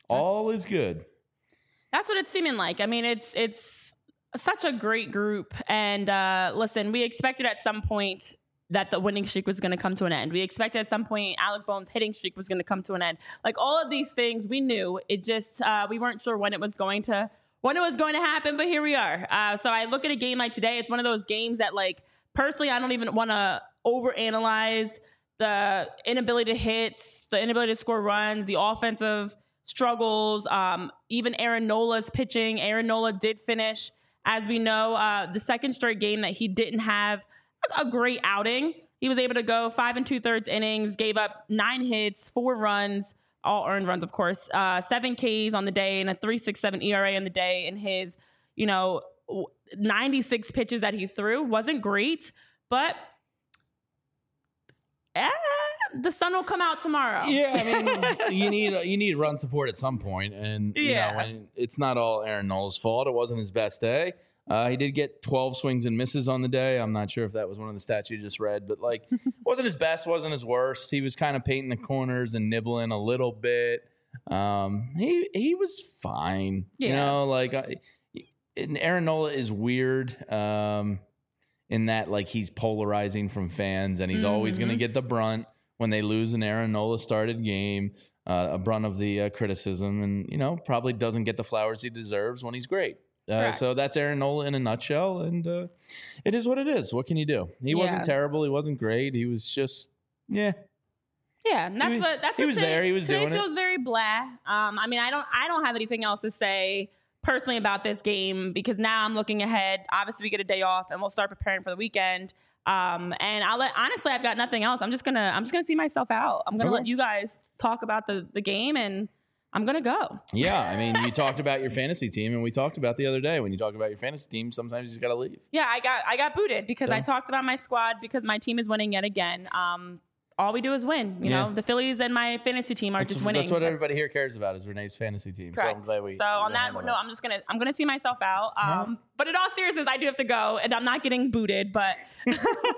All is good. That's what it's seeming like. I mean, it's it's such a great group. And uh, listen, we expected at some point that the winning streak was going to come to an end. We expected at some point Alec Bones' hitting streak was going to come to an end. Like all of these things, we knew. It just uh, we weren't sure when it was going to when it was going to happen. But here we are. Uh, so I look at a game like today. It's one of those games that, like, personally, I don't even want to overanalyze the inability to hit, the inability to score runs, the offensive struggles, um, even Aaron Nola's pitching. Aaron Nola did finish, as we know, uh, the second straight game that he didn't have a great outing. He was able to go five and two thirds innings, gave up nine hits, four runs, all earned runs, of course, uh, seven Ks on the day and a three point six seven E R A on the day. And his, you know, ninety-six pitches that he threw wasn't great, but eh, the sun will come out tomorrow. Yeah, I mean, you need you need run support at some point, and you Yeah. know, when it's not all Aaron Nola's fault. It wasn't his best day. Uh, he did get twelve swings and misses on the day. I'm not sure if that was one of the stats you just read, but like, wasn't his best, wasn't his worst. He was kind of painting the corners and nibbling a little bit. Um, he he was fine. You Yeah. know, like, I, and Aaron Nola is weird. Um, in that, like, he's polarizing from fans, and he's mm-hmm. always going to get the brunt when they lose an Aaron Nola started game, uh, a brunt of the uh, criticism, and, you know, probably doesn't get the flowers he deserves when he's great. Uh, so that's Aaron Nola in a nutshell, and uh, it is what it is. What can you do? He Yeah. wasn't terrible. He wasn't great. He was just, yeah. Yeah, and that's He- what that's he what was today, there. He was today doing it. feels very blah. Um, I mean, I don't I don't have anything else to say personally about this game because now I'm looking ahead. Obviously, we get a day off, and we'll start preparing for the weekend. Um, and I'll let honestly, I've got nothing else. I'm just gonna I'm just gonna see myself out. I'm gonna Okay. let you guys talk about the the game, and I'm gonna go. Yeah, I mean, you talked about your fantasy team, and we talked about the other day. When you talk about your fantasy team, sometimes you just got to leave. Yeah, I got I got booted because So? I talked about my squad because my team is winning yet again. Um, all we do is win. You Yeah. know, the Phillies and my fantasy team are That's, just winning. that's what everybody here cares about is Renee's fantasy team. Correct. So I'm glad we. So on we that handled note, I'm just gonna I'm gonna see myself out. Um, but in all seriousness, I do have to go, and I'm not getting booted. But I'll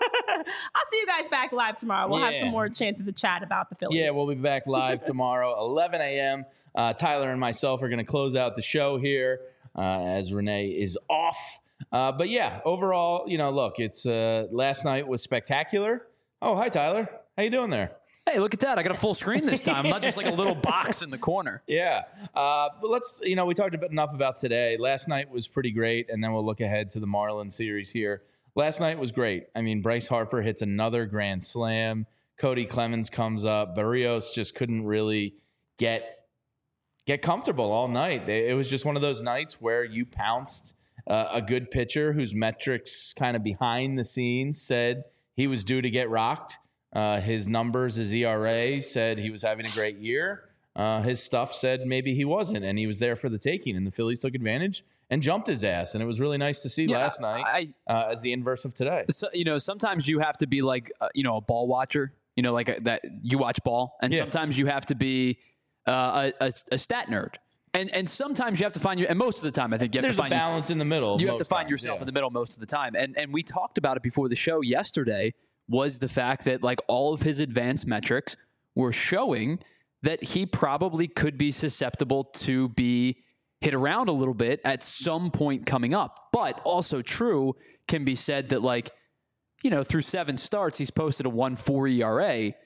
see you guys back live tomorrow. We'll have Yeah. some more chances to chat about the Phillies. Yeah, we'll be back live tomorrow, eleven a.m. Uh, Tyler and myself are going to close out the show here uh, as Renee is off. Uh, but yeah, overall, you know, look, it's uh, last night was spectacular. Oh, hi, Tyler. How you doing there? Hey, look at that. I got a full screen this time, not just like a little box in the corner. Yeah. Uh, but let's, you know, we talked about enough about today. Last night was pretty great, and then we'll look ahead to the Marlins series here. Last night was great. I mean, Bryce Harper hits another grand slam. Cody Clemens comes up. Barrios just couldn't really get get comfortable all night. They, it was just one of those nights where you pounced uh, a good pitcher whose metrics kind of behind the scenes said he was due to get rocked. Uh, his numbers, his E R A said he was having a great year. Uh, his stuff said maybe he wasn't, and he was there for the taking, and the Phillies took advantage and jumped his ass, and it was really nice to see Yeah, last night I- uh, as the inverse of today. So, you know, sometimes you have to be like, uh, you know, a ball watcher, you know, like a, that you watch ball. And Yeah. sometimes you have to be uh, a, a, a stat nerd. And and sometimes you have to find your, and most of the time, I think you have There's to a find balance in the middle. you have to most find times, yourself yeah. in the middle most of the time. And and we talked about it before the show yesterday, was the fact that like all of his advanced metrics were showing that he probably could be susceptible to be hit around a little bit at some point coming up. But also true can be said that, like, you know, through seven starts, he's posted a one point four E R A.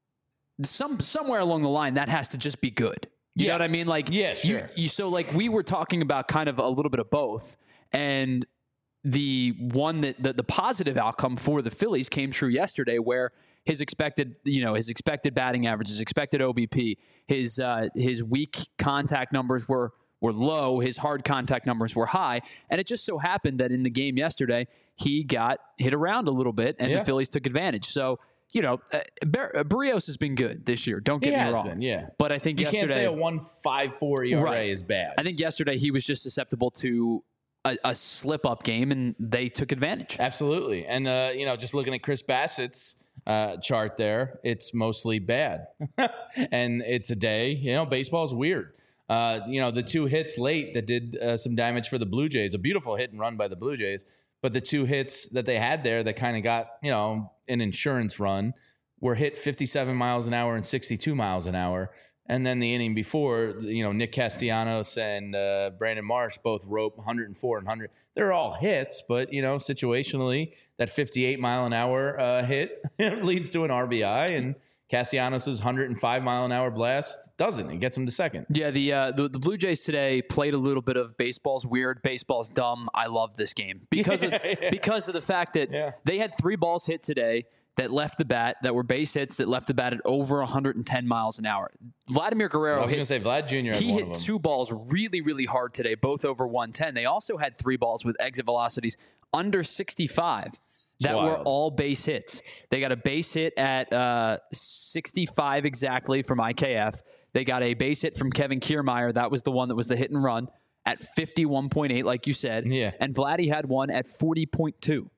Some somewhere along the line, that has to just be good. You Yeah. know what I mean? Like, Yeah, you, sure. you, so like we were talking about kind of a little bit of both, and the one that the, the positive outcome for the Phillies came true yesterday, where his expected, you know, his expected batting average, his expected O B P, his uh, his weak contact numbers were were low, his hard contact numbers were high, and it just so happened that in the game yesterday he got hit around a little bit, and Yeah. the Phillies took advantage. So, you know, uh, Bar- uh, Barrios has been good this year. Don't He get me has wrong. been, yeah. But I think You yesterday, can't say a one point five four E R A Right. is bad. I think yesterday he was just susceptible to a, a slip-up game, and they took advantage. Absolutely. And, uh, you know, just looking at Chris Bassett's uh, chart there, it's mostly bad. And it's a day, you know, baseball's weird. Uh, you know, the two hits late that did uh, some damage for the Blue Jays, a beautiful hit and run by the Blue Jays. But the two hits that they had there that kind of got, you know, an insurance run were hit fifty-seven miles an hour and sixty-two miles an hour. And then the inning before, you know, Nick Castellanos and uh, Brandon Marsh both rope one oh four and one hundred. They're all hits, but, you know, situationally, that fifty-eight mile an hour uh, hit leads to an R B I, and Castellanos' one hundred five mile an hour blast doesn't. It gets him to second. Yeah, the, uh, the the Blue Jays today played a little bit of baseball's weird, baseball's dumb. I love this game because Yeah, of yeah. because of the fact that Yeah. they had three balls hit today that left the bat, that were base hits, that left the bat at over one hundred ten miles an hour. Vladimir I Guerrero was hit going to say Vlad Junior had He one hit of them. two balls really, really hard today, both over one ten. They also had three balls with exit velocities under sixty-five that were wild. all base hits. They got a base hit at uh, sixty-five exactly from I K F. They got a base hit from Kevin Kiermaier. That was the one that was the hit and run at fifty-one point eight, like you said. Yeah. And Vladdy had one at forty point two.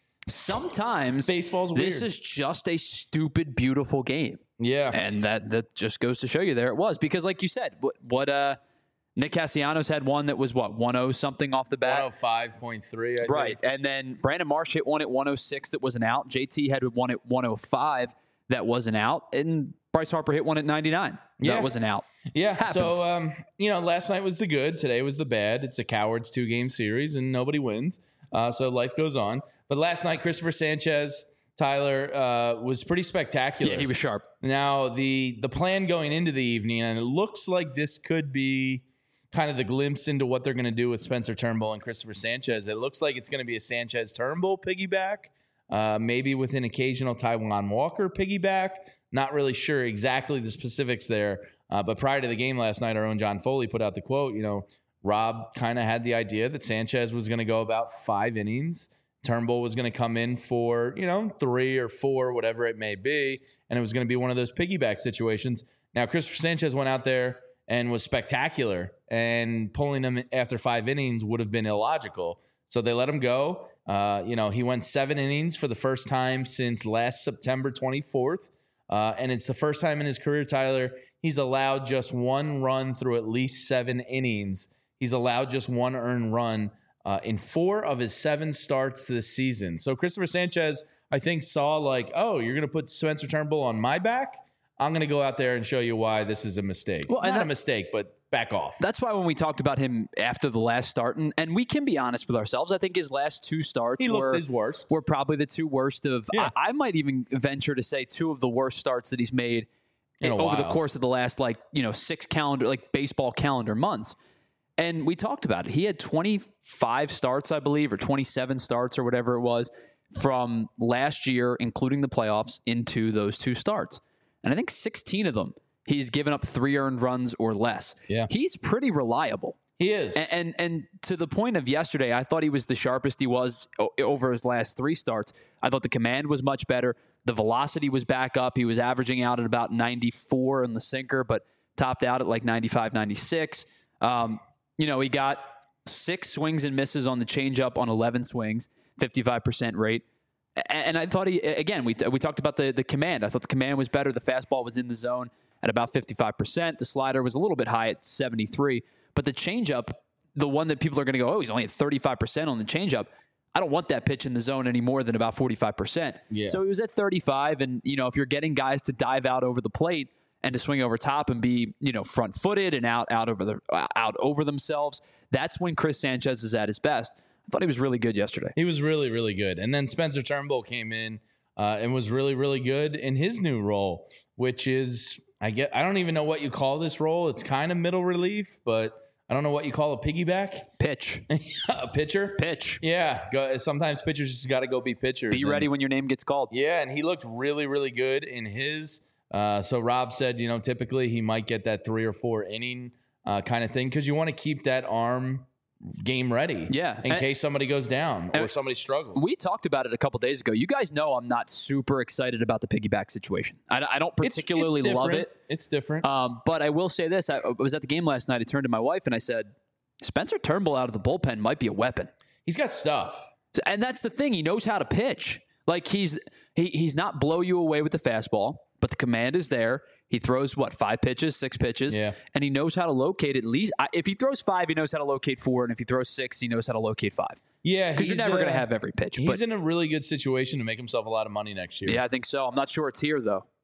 Sometimes Baseball's this weird. is just a stupid, beautiful game. Yeah. And that that just goes to show you there it was. Because like you said, what what uh Nick Castellanos had one that was what, one oh something off the bat? one oh five point three, I Right. think. And then Brandon Marsh hit one at one oh six that was an out. J T had one at one oh five that was an out. And Bryce Harper hit one at ninety-nine. Yeah. That was an out. Yeah. Happens. So, um, you know, last night was the good. Today was the bad. It's a coward's two-game series, and nobody wins. Uh, so life goes on. But last night, Christopher Sanchez, Tyler, uh, was pretty spectacular. Yeah, he was sharp. Now, the the plan going into the evening, and it looks like this could be kind of the glimpse into what they're going to do with Spencer Turnbull and Christopher Sanchez. It looks like it's going to be a Sanchez-Turnbull piggyback, uh, maybe with an occasional Taijuan Walker piggyback. Not really sure exactly the specifics there. Uh, but prior to the game last night, our own John Foley put out the quote, you know, Rob kind of had the idea that Sanchez was going to go about five innings. Turnbull was going to come in for, you know, three or four, whatever it may be. And it was going to be one of those piggyback situations. Now, Christopher Sanchez went out there and was spectacular. And pulling him after five innings would have been illogical. So they let him go. Uh, you know, he went seven innings for the first time since last September twenty-fourth. Uh, and it's the first time in his career, Tyler, he's allowed just one run through at least seven innings. He's allowed just one earned run uh, in four of his seven starts this season. So Christopher Sanchez, I think, saw like, oh, you're going to put Spencer Turnbull on my back? I'm going to go out there and show you why this is a mistake. Well, and Not that- a mistake, but back off. That's why when we talked about him after the last start, and, and we can be honest with ourselves, I think his last two starts He looked were, his worst. were probably the two worst of, Yeah. I, I might even venture to say two of the worst starts that he's made In a over the while. course of the last, like, you know, six calendar, like baseball calendar months. And we talked about it. He had twenty-five starts, I believe, or twenty-seven starts or whatever it was from last year, including the playoffs, into those two starts. And I think sixteen of them, he's given up three earned runs or less. Yeah. He's pretty reliable. He is. And, and and to the point of yesterday, I thought he was the sharpest he was o- over his last three starts. I thought the command was much better. The velocity was back up. He was averaging out at about ninety-four in the sinker, but topped out at like ninety-five, ninety-six. Um, you know, he got six swings and misses on the changeup on eleven swings, fifty-five percent rate. A- And I thought he, again, we we talked about the, the command. I thought the command was better. The fastball was in the zone at about fifty-five percent. The slider was a little bit high at seventy-three. But the changeup, the one that people are going to go, oh, he's only at thirty-five percent on the changeup. I don't want that pitch in the zone any more than about forty-five percent. Yeah. So he was at thirty-five. And, you know, if you're getting guys to dive out over the plate and to swing over top and be, you know, front footed and out, out over the, out over themselves, that's when Chris Sanchez is at his best. I thought he was really good yesterday. He was really, really good. And then Spencer Turnbull came in uh, and was really, really good in his new role, which is, I get, I don't even know what you call this role. It's kind of middle relief, but I don't know what you call a piggyback. Pitch. A pitcher. Pitch. Yeah. Go, sometimes pitchers just got to go be pitchers. Be And- ready when your name gets called. Yeah, and he looked really, really good in his. Uh, so Rob said, you know, typically he might get that three or four inning uh, kind of thing because you want to keep that arm game ready. Yeah. In And- case somebody goes down or and somebody struggles. We talked about it a couple days ago. You guys know I'm not super excited about the piggyback situation. I, I don't It's- it's particularly love different. it. It's different. Um, but I will say this. I, I was at the game last night. I turned to my wife and I said, Spencer Turnbull out of the bullpen might be a weapon. He's got stuff. And that's the thing. He knows how to pitch. Like he's he, he's not blow you away with the fastball, but the command is there. He throws, what, five pitches, six pitches? Yeah. And he knows how to locate at least. I- If he throws five, he knows how to locate four. And if he throws six, he knows how to locate five. Yeah, Because you're he's, never going uh, to have every pitch. He's But in a really good situation to make himself a lot of money next year. yeah, I think so. I'm not sure it's here, though.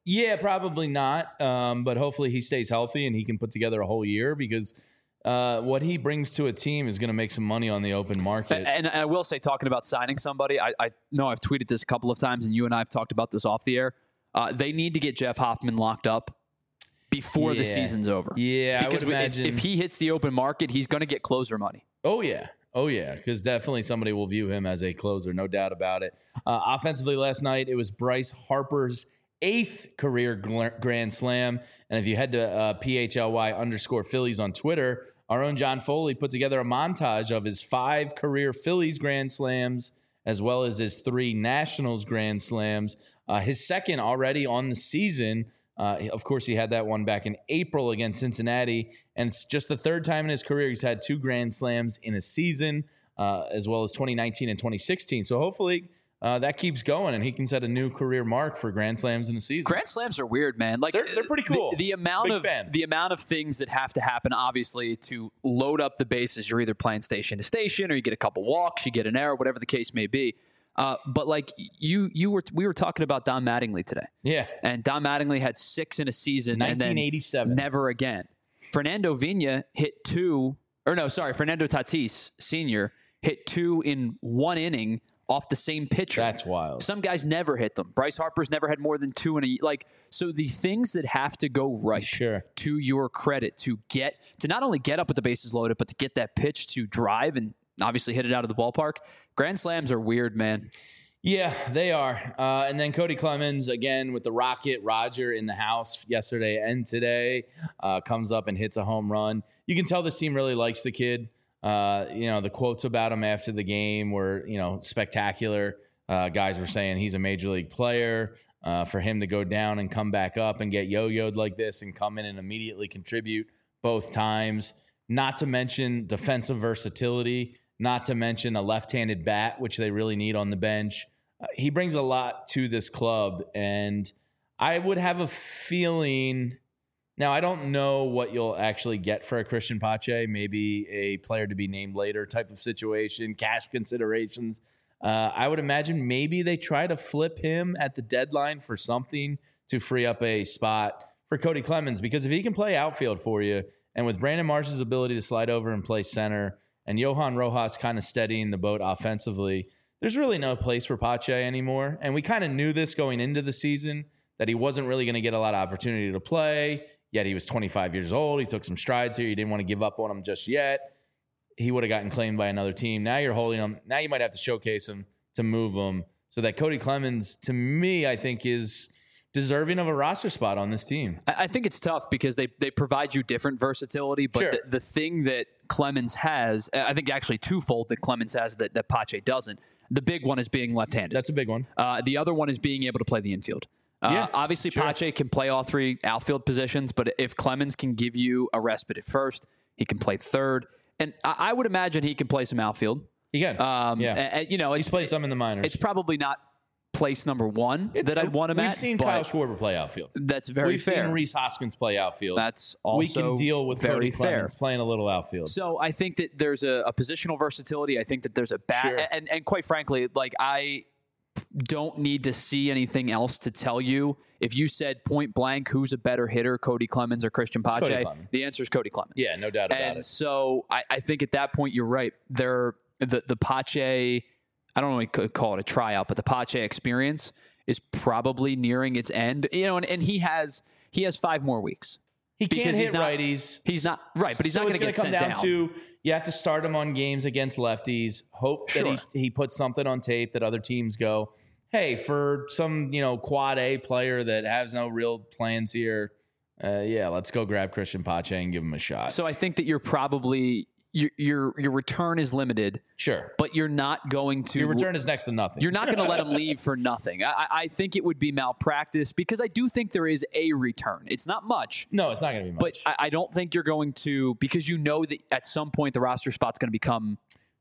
Yeah, probably not. Um, but hopefully he stays healthy and he can put together a whole year because uh, what he brings to a team is going to make some money on the open market. And, and I will say, talking about signing somebody, I, I know I've tweeted this a couple of times, and you and I have talked about this off the air. Uh, they need to get Jeff Hoffman locked up before Yeah. the season's over. Yeah, because I would if, imagine. if he hits the open market, he's going to get closer money. Oh, yeah. Oh, yeah, because definitely somebody will view him as a closer, no doubt about it. Uh, offensively last night, it was Bryce Harper's eighth career gl- Grand Slam. And if you head to uh, P H L Y underscore Phillies on Twitter, our own John Foley put together a montage of his five career Phillies Grand Slams, as well as his three Nationals Grand Slams. Uh, his second already on the season. Uh, of course, he had that one back in April against Cincinnati, and it's just the third time in his career he's had two Grand Slams in a season, uh, as well as twenty nineteen and twenty sixteen. So hopefully uh, that keeps going, and he can set a new career mark for Grand Slams in a season. Grand Slams are weird, man. Like They're- they're pretty cool. The, the amount Big of fan. the amount of things that have to happen, obviously, to load up the bases. You're either playing station to station, or you get a couple walks, you get an error, whatever the case may be. Uh, but like you, you were, we were talking about Don Mattingly today. Yeah. And Don Mattingly had six in a season. and then nineteen eighty-seven. never again. Fernando Vina hit two, or no, sorry, Fernando Tatis Senior hit two in one inning off the same pitcher. That's wild. Some guys never hit them. Bryce Harper's never had more than two in a like. So the things that have to go right, Sure. to your credit, to get to not only get up with the bases loaded, but to get that pitch to drive and obviously hit it out of the ballpark. Grand Slams are weird, man. Yeah, they are. Uh, and then Cody Clemens, again, with the Rocket, Roger in the house yesterday and today, uh, comes up and hits a home run. You can tell this team really likes the kid. Uh, you know, the quotes about him after the game were, you know, spectacular. Uh, guys were saying he's a major league player. Uh, for him to go down and come back up and get yo-yoed like this and come in and immediately contribute both times. Not to mention defensive versatility. Not to mention a left-handed bat, which they really need on the bench. Uh, he brings a lot to this club, and I would have a feeling. Now, I don't know what you'll actually get for a Christian Pache, maybe a player to be named later type of situation, cash considerations. Uh, I would imagine maybe they try to flip him at the deadline for something to free up a spot for Cody Clemens, because if he can play outfield for you, and with Brandon Marsh's ability to slide over and play center, and Johan Rojas kind of steadying the boat offensively, there's really no place for Pache anymore. And we kind of knew this going into the season, that he wasn't really going to get a lot of opportunity to play, yet he was twenty-five years old. He took some strides here. You didn't want to give up on him just yet. He would have gotten claimed by another team. Now you're holding him. Now you might have to showcase him to move him. So that Cody Clemens, to me, I think is deserving of a roster spot on this team. I I think it's tough because they they provide you different versatility, but Sure. the, the thing that Clemens has, I think actually twofold that Clemens has that, that Pache doesn't. The big one is being left-handed. That's a big one. Uh, the other one is being able to play the infield. Uh, Yeah, obviously, sure. Pache can play all three outfield positions, but if Clemens can give you a respite at first, he can play third. And I, I would imagine he can play some outfield. He can. Um, yeah. and- and, you know, He's it's, played some in the minors. it's probably not place number one that I'd want him We've at. seen but Kyle Schwarber play outfield. That's very We've fair. seen Reese Hoskins play outfield. That's we also can deal with very Cody fair. Clemens playing a little outfield. So I think that there's a, a positional versatility. I think that there's a bat, Sure. and and quite frankly, like I don't need to see anything else to tell you. If you said point blank, who's a better hitter, Cody Clemens or Christian Cody Pache? Clemens. The answer is Cody Clemens. Yeah, no doubt about And it. so I, I think at that point you're right. There, the the Pache, I don't know if we could call it a tryout, but the Pache experience is probably nearing its end. You know, and, and he has he has five more weeks. He can't because hit he's not- righties. He's not right, but he's so not going to it's get gonna sent come down. down, to you have to start him on games against lefties. Hope Sure. that he, he puts something on tape that other teams go, hey, for some you know quad A player that has no real plans here, uh, yeah, let's go grab Christian Pache and give him a shot. So I think that you're probably your your your return is limited, sure, but you're not going to your return is next to nothing. You're not going to let him leave for nothing. I, I- I think it would be malpractice because I do think there is a return. It's not much, no, it's not going to be much. but I, I don't think you're going to because you know that at some point the roster spot's going to become.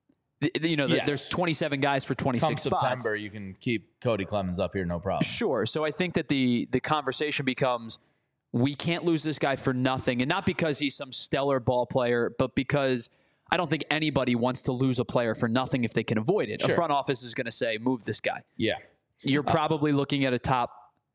You know, Yes. there's twenty-seven guys for come twenty-six spots. September, you can keep Cody Clemens up here, no problem. Sure. So I think that the the conversation becomes we can't lose this guy for nothing, and not because he's some stellar ball player, but because I don't think anybody wants to lose a player for nothing if they can avoid it. Sure. A front office is going to say, move this guy. Yeah. You're probably looking at a top.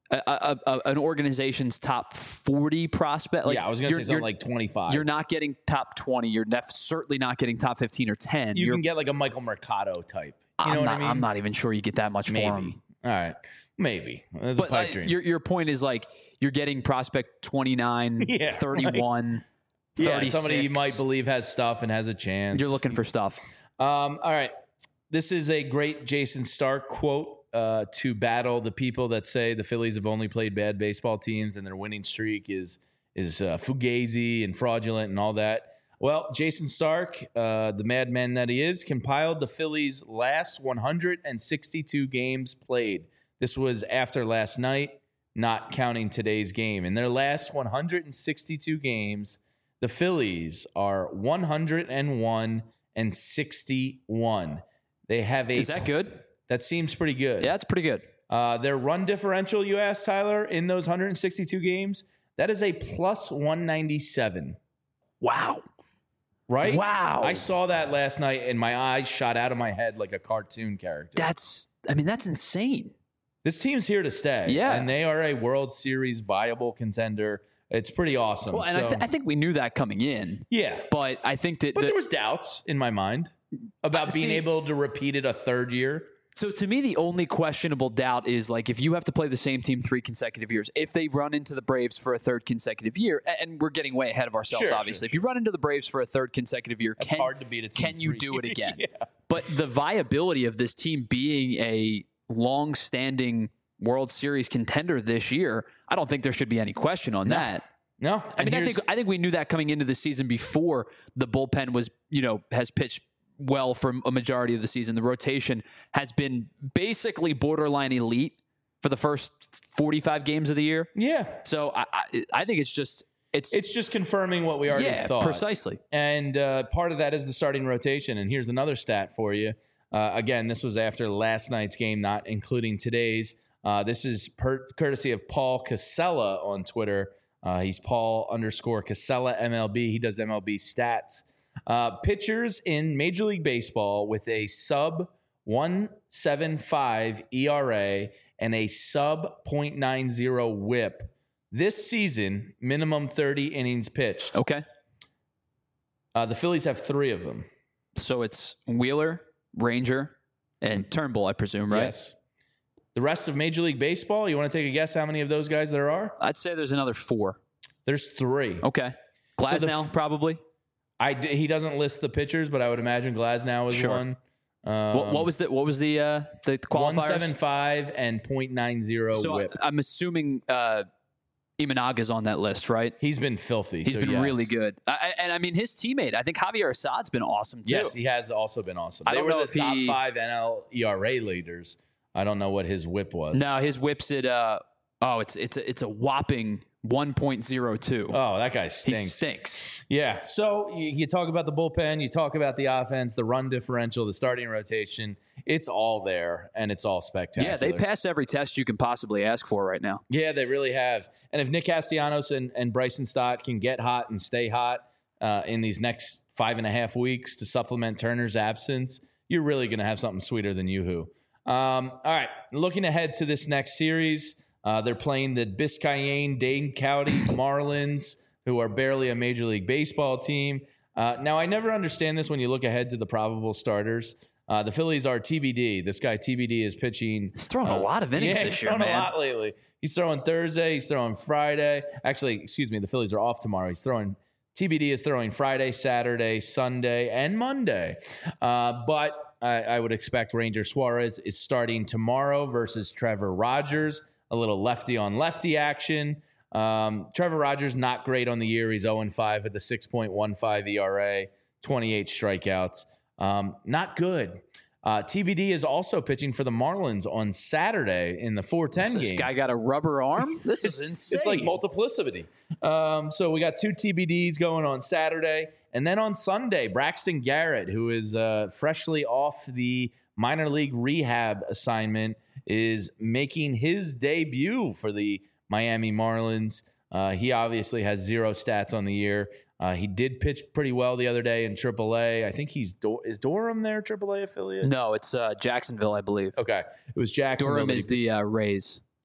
a, a, a, an organization's top forty prospect. Like, yeah, I was going to you're- say something you're- like twenty-five. You're not getting top twenty. You're def- certainly not getting top fifteen or ten. You You're, can get like a Michael Mercado type. You I'm know what not, I mean? I'm not even sure you get that much Maybe. for him. All right. Maybe. That's But a pipe uh, dream. your your point is like you're getting prospect twenty-nine, Yeah, thirty-one, yeah, thirty-six. somebody you might believe has stuff and has a chance. You're looking for stuff. Um, all right. This is a great Jason Stark quote uh, to battle the people that say the Phillies have only played bad baseball teams and their winning streak is is uh, fugazi and fraudulent and all that. Well, Jason Stark, uh, the madman that he is, compiled the Phillies' last one hundred sixty-two games played. This was after last night, not counting today's game. In their last one hundred sixty-two games, the Phillies are one hundred one and sixty-one. They have a Is that good? That seems pretty good. Yeah, it's pretty good. Uh, their run differential, you asked Tyler, in those one hundred sixty-two games, that is a plus one ninety-seven. Wow. Right? Wow. I saw that last night and my eyes shot out of my head like a cartoon character. That's, I mean, that's insane. This team's here to stay. Yeah. And they are a World Series viable contender. It's pretty awesome. Well, and So, I, th- I think we knew that coming in, yeah. but I think that, But the- there was doubts in my mind about Uh, being see- able to repeat it a third year. so to me, the only questionable doubt is like if you have to play the same team three consecutive years, if they run into the Braves for a third consecutive year, a- and we're getting way ahead of ourselves, Sure, obviously. sure, If you run into the Braves for a third consecutive year, That's can, hard to beat a team can you three. do it again? Yeah. But the viability of this team being a long-standing World Series contender this year, I don't think there should be any question on that. No. I mean, I think I think we knew that coming into the season before the bullpen was, you know, has pitched well for a majority of the season. The rotation has been basically borderline elite for the first forty-five games of the year. Yeah. So I I, I think it's just it's It's just confirming what we already yeah thought. precisely. And uh, part of that is the starting rotation. And here's another stat for you. Uh, again, this was after last night's game, not including today's. Uh, this is per- courtesy of Paul Casella on Twitter. Uh, he's Paul underscore Casella M L B. He does M L B stats. Uh, pitchers in Major League Baseball with a sub one seventy-five E R A and a sub point nine zero whip this season, minimum thirty innings pitched. Okay. Uh, the Phillies have three of them. So it's Wheeler, Ranger, and Turnbull, I presume, right? Yes. The rest of Major League Baseball, you want to take a guess how many of those guys there are? I'd say there's another four. There's three. Okay. Glasnow, f- probably. I d- he doesn't list the pitchers, but I would imagine Glasnow is Sure. one. Um, What, what was the what was the uh, the one qualifiers? seventy-five and point nine zero So whip. I- I'm assuming uh, Imanaga's on that list, right? He's been filthy. He's so been yes. really good. I, I- and I mean, his teammate, I think Javier Assad's been awesome too. Yes, he has also been awesome. I They don't were know the if top he- five N L E R A leaders. I don't know what his whip was. No, his whips at uh oh, it's it's a, it's a whopping one point oh two. Oh, that guy he stinks. stinks. Yeah. So you, you talk about the bullpen, you talk about the offense, the run differential, the starting rotation. It's all there, and it's all spectacular. Yeah, they pass every test you can possibly ask for right now. Yeah, they really have. And if Nick Castellanos and, and Bryson Stott can get hot and stay hot uh, in these next five and a half weeks to supplement Turner's absence, you're really going to have something sweeter than Yoo-hoo. Um, all right, looking ahead to this next series, uh, they're playing the Biscayne Dane County Marlins, who are barely a Major League Baseball team. Uh, now, I never understand this when you look ahead to the probable starters. Uh, the Phillies are T B D. This guy T B D is pitching. He's thrown a lot of innings yeah, this he's year, thrown man. a lot lately. He's throwing Thursday. He's throwing Friday. Actually, excuse me, the Phillies are off tomorrow. He's throwing. T B D is throwing Friday, Saturday, Sunday, and Monday. Uh, but I, I would expect Ranger Suarez is starting tomorrow versus Trevor Rogers. A little lefty on lefty action. Um, Trevor Rogers not great on the year. He's oh and five with a six point one five E R A, twenty-eight strikeouts. Um, not good. Uh, T B D is also pitching for the Marlins on Saturday in the four ten This game. guy got a rubber arm? This is insane. It's like multiplicity. Um, so we got two T B Ds going on Saturday. And then on Sunday, Braxton Garrett, who is uh, freshly off the minor league rehab assignment, is making his debut for the Miami Marlins. Uh, he obviously has zero stats on the year. Uh, he did pitch pretty well the other day in triple A. I think he's Do- is Durham their triple A affiliate? No, it's uh, Jacksonville, I believe. Okay, it was Jacksonville. Durham that he is the uh, Rays.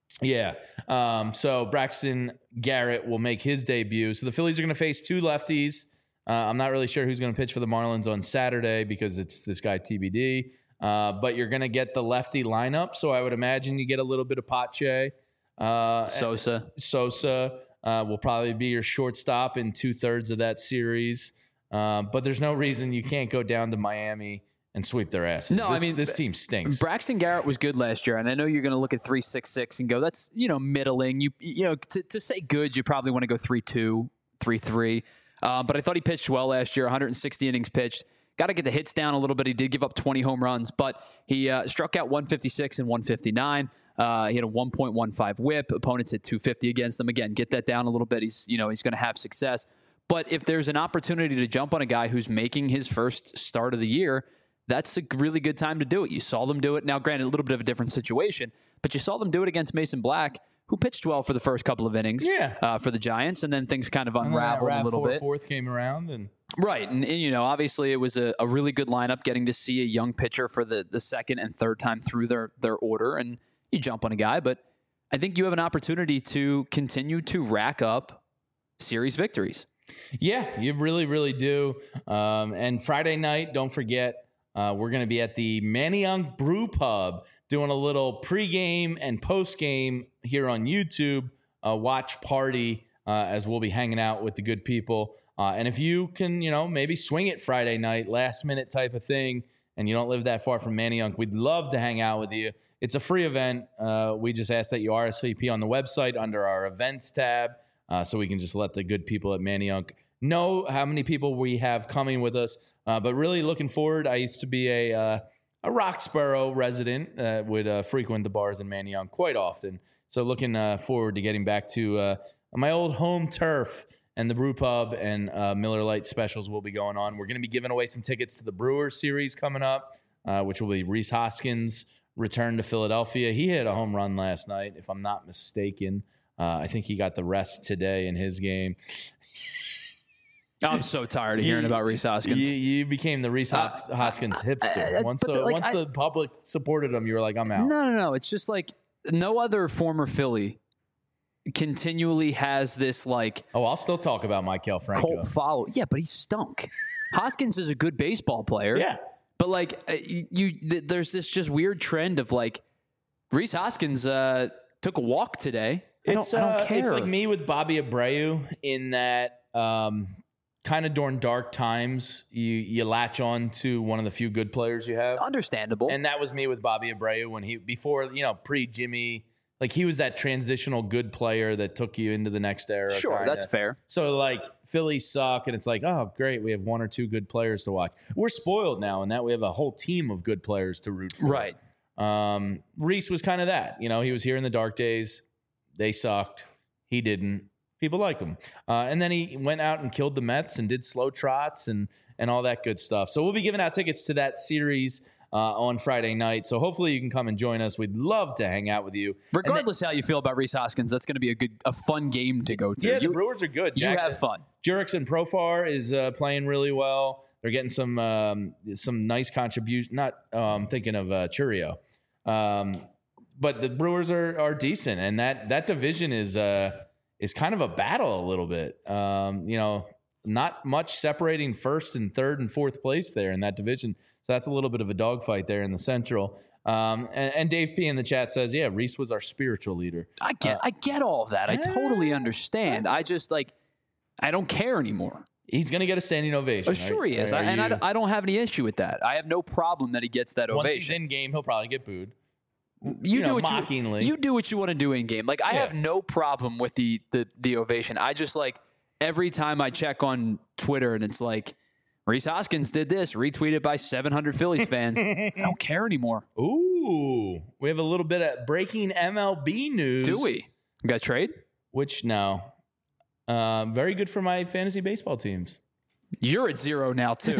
Yeah. Um, so Braxton Garrett will make his debut. So the Phillies are going to face two lefties. Uh, I'm not really sure who's going to pitch for the Marlins on Saturday because it's this guy T B D. Uh, but you're going to get the lefty lineup. So I would imagine you get a little bit of Pache. Uh, Sosa. Sosa uh, will probably be your shortstop in two thirds of that series. Uh, but there's no reason you can't go down to Miami and sweep their asses. No, this, I mean, this team stinks. Braxton Garrett was good last year, and I know you're going to look at three six six and go, that's, you know, middling. You you know, to, to say good, you probably want to go three two, three three. Uh, but I thought he pitched well last year, one hundred sixty innings pitched. Got to get the hits down a little bit. He did give up twenty home runs, but he uh, struck out one fifty-six and one fifty-nine. Uh, he had a one point one five whip. Opponents hit two fifty against them. Again, get that down a little bit. He's, you know, he's going to have success. But if there's an opportunity to jump on a guy who's making his first start of the year, that's a really good time to do it. You saw them do it. Now, granted, a little bit of a different situation, but you saw them do it against Mason Black, who pitched well for the first couple of innings yeah. uh, for the Giants, and then things kind of unraveled a little four, bit. Fourth came around. and Right, and, and you know, obviously it was a, a really good lineup, getting to see a young pitcher for the, the second and third time through their, their order, and you jump on a guy, but I think you have an opportunity to continue to rack up series victories. Yeah, you really, really do. Um, and Friday night, don't forget, uh, we're going to be at the Manayunk Brew Pub doing a little pregame and postgame here on YouTube, uh, watch party uh, as we'll be hanging out with the good people. Uh, and if you can, you know, maybe swing it Friday night, last minute type of thing, and you don't live that far from Manayunk, we'd love to hang out with you. It's a free event. Uh, we just ask that you R S V P on the website under our events tab. Uh, so we can just let the good people at Manayunk know how many people we have coming with us. Uh, but really looking forward. I used to be a uh, a Roxborough resident that would uh, frequent the bars in Manayunk quite often. So looking uh, forward to getting back to uh, my old home turf, and the Brew Pub and uh, Miller Lite specials will be going on. We're going to be giving away some tickets to the Brewers series coming up, uh, which will be Rhys Hoskins' return to Philadelphia. He hit a home run last night, if I'm not mistaken. Uh, I think he got the rest today in his game. I'm so tired of hearing you, about Rhys Hoskins. You, you became the Rhys uh, Hoskins hipster. Uh, once the, like, once I, the public supported him, you were like, I'm out. No, no, no. It's just like no other former Philly continually has this like. Oh, I'll still talk about Maikel Franco. Cult follow. Yeah, but he stunk. Hoskins is a good baseball player. Yeah. But like you, you there's this just weird trend of like Rhys Hoskins uh, took a walk today. I don't, It's, I don't uh, care. It's like me with Bobby Abreu in that um, kind of during dark times, you you latch on to one of the few good players you have. Understandable. And that was me with Bobby Abreu when he, before, you know, pre-Jimmy, like he was that transitional good player that took you into the next era. Sure, kinda. that's fair. So like Philly suck and it's like, oh, great, we have one or two good players to watch. We're spoiled now in that we have a whole team of good players to root for. Right. Um, Rhys was kind of that. You know, he was here in the dark days. They sucked. He didn't. People liked him. Uh, and then he went out and killed the Mets and did slow trots and and all that good stuff. So we'll be giving out tickets to that series uh, on Friday night. So hopefully you can come and join us. We'd love to hang out with you. Regardless then, how you feel about Rhys Hoskins, that's going to be a good, a fun game to go to. Yeah, you, the Brewers are good. You Jackson, have fun. Jurickson Profar is uh, playing really well. They're getting some um, some nice contribution. Not um, thinking of uh, Churio. Um, but the Brewers are are decent, and that that division is uh is kind of a battle a little bit. Um, you know, not much separating first and third and fourth place there in that division. So that's a little bit of a dogfight there in the Central. Um, and, and Dave P in the chat says, "Yeah, Rhys was our spiritual leader." I get, uh, I get all of that. I totally understand. I just like, I don't care anymore. He's going to get a standing ovation. Oh, sure right? he is, Are I, and you, I, I don't have any issue with that. I have no problem that he gets that once ovation. he's in game, he'll probably get booed. You, you do know, what mockingly. You, you do what you want to do in game. Like I Yeah. have no problem with the, the the ovation. I just like every time I check on Twitter and it's like Rhys Hoskins did this, retweeted by seven hundred Phillies fans. I don't care anymore. Ooh, we have a little bit of breaking M L B news. Do we? We got a trade? Which no, uh, very good for my fantasy baseball teams. You're at zero now too.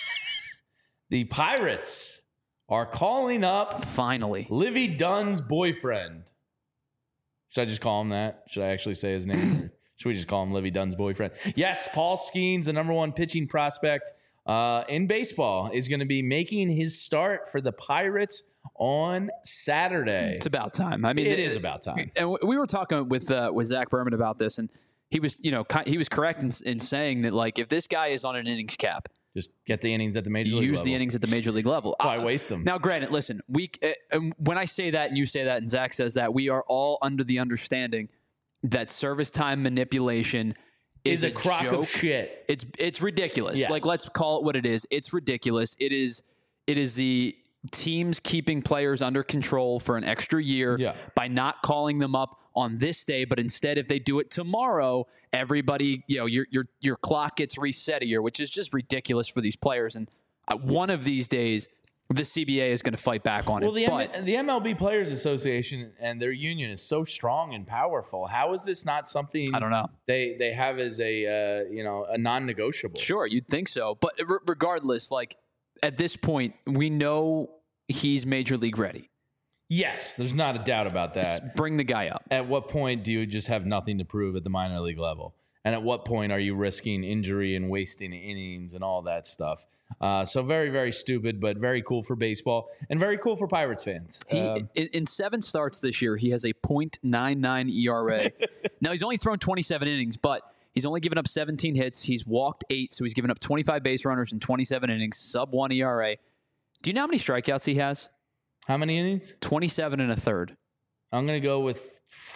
The Pirates are calling up Finally. Livy Dunn's boyfriend. Should I just call him that? Should I actually say his name? Or should we just call him Livy Dunn's boyfriend? Yes, Paul Skeens, the number one pitching prospect uh, in baseball, is going to be making his start for the Pirates on Saturday. It's about time. I mean, it, it is about time. And we were talking with uh, with Zach Berman about this, and he was, you know, he was correct in, in saying that, like, if this guy is on an innings cap, just get the innings at the major league use level. the innings at the major league level. Why uh, waste them? Now, granted, listen, we uh, when I say that and you say that and Zach says that, we are all under the understanding that service time manipulation is, is a, a crock joke. of shit. It's it's ridiculous. Yes. Like, let's call it what it is. It's ridiculous. It is it is the teams keeping players under control for an extra year Yeah. by not calling them up on this day, but instead if they do it tomorrow, everybody, you know, your your your clock gets reset a year, which is just ridiculous for these players. And uh, one of these days, the C B A is going to fight back on Well, it. the But M- the M L B Players Association and their union is so strong and powerful. How is this not something I don't know. they they have as a uh, you know a non-negotiable? Sure, you'd think so. But re- regardless, like at this point, we know he's major league ready. Yes, there's not a doubt about that. Just bring the guy up. At what point do you just have nothing to prove at the minor league level? And at what point are you risking injury and wasting innings and all that stuff? Uh, so very, very stupid, but very cool for baseball and very cool for Pirates fans. He, Um, in, in seven starts this year, he has a point nine nine E R A. Now, he's only thrown twenty-seven innings, but he's only given up seventeen hits. He's walked eight, so he's given up twenty-five base runners in twenty-seven innings, sub one E R A. Do you know how many strikeouts he has? how many innings? twenty-seven and a third. I'm going to go with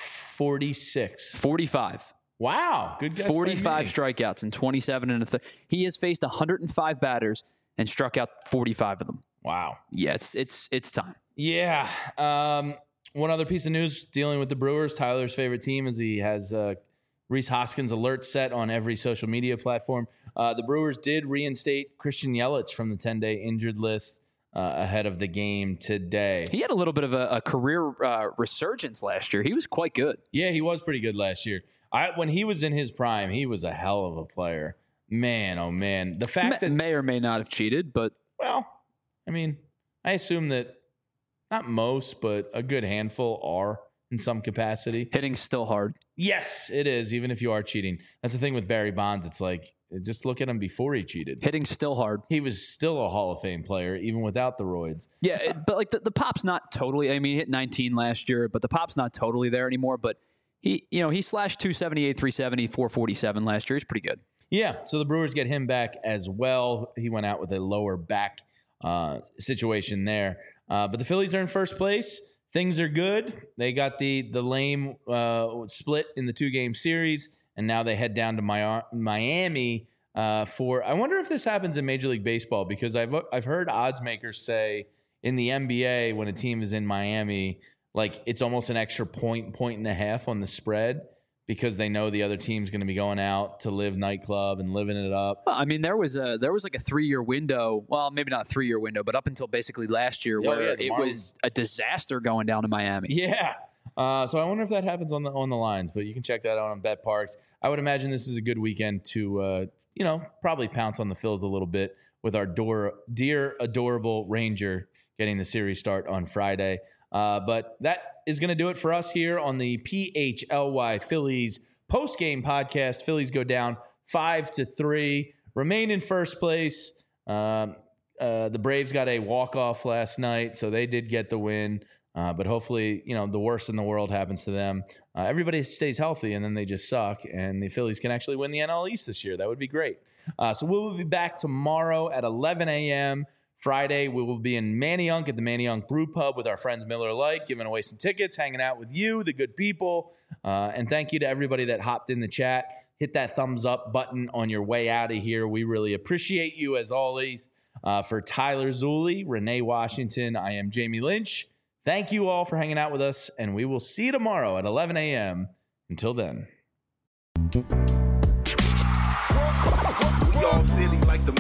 forty-six. forty-five. Wow, good guess. by forty-five me. strikeouts and twenty-seven and a third. He has faced one hundred five batters and struck out forty-five of them. Wow. Yeah, it's it's it's time. Yeah. Um, one other piece of news dealing with the Brewers, Tyler's favorite team, is he has uh, Rhys Hoskins alert set on every social media platform. Uh, the Brewers did reinstate Christian Yelich from the ten-day injured list uh, ahead of the game today. He had a little bit of a, a career uh, resurgence last year. He was quite good. Yeah, he was pretty good last year. I, when he was in his prime, he was a hell of a player. Man, oh man. The fact May, that, may or may not have cheated, but well, I mean, I assume that not most, but a good handful are in some capacity. hitting's still hard. Yes, it is, even if you are cheating. That's the thing with Barry Bonds. It's like, just look at him before he cheated. Hitting's still hard. He was still a Hall of Fame player, even without the roids. Yeah, it, but like the, the pop's not totally. I mean, he hit nineteen last year, but the pop's not totally there anymore. But he, you know, he slashed two seventy-eight, three seventy, four forty-seven last year. He's pretty good. Yeah, so the Brewers get him back as well. He went out with a lower back uh, situation there. Uh, but the Phillies are in first place. Things are good. They got the the lame uh, split in the two-game series, and now they head down to Mi- Miami uh, for – I wonder if this happens in Major League Baseball, because I've I've heard odds makers say in the N B A when a team is in Miami, like it's almost an extra point, point and a half on the spread, because they know the other team's going to be going out to live nightclub and living it up. Well, I mean, there was a there was like a three year window. Well, maybe not a three year window, but up until basically last year, Oh, where yeah, the it Marlins- was a disaster going down to Miami. Yeah. Uh, so I wonder if that happens on the on the lines, but you can check that out on Bet Parks. I would imagine this is a good weekend to, uh, you know, probably pounce on the Phils a little bit with our door, dear, adorable Ranger getting the series start on Friday. Uh, but that is going to do it for us here on the P H L Y Phillies post-game podcast. Phillies go down five to three, remain in first place. Um, uh, the Braves got a walk-off last night, so they did get the win. Uh, but hopefully, you know, the worst in the world happens to them. Uh, everybody stays healthy, and then they just suck, and the Phillies can actually win the N L East this year. That would be great. Uh, so we will be back tomorrow at eleven a.m. Friday, we will be in Manayunk at the Manayunk Brew Pub with our friends Miller Lite, giving away some tickets, hanging out with you, the good people. Uh, and thank you to everybody that hopped in the chat. Hit that thumbs up button on your way out of here. We really appreciate you, as always. Uh, for Tyler Zulli, Renee Washington, I am Jamie Lynch. Thank you all for hanging out with us, and we will see you tomorrow at eleven a.m. Until then. We all silly like the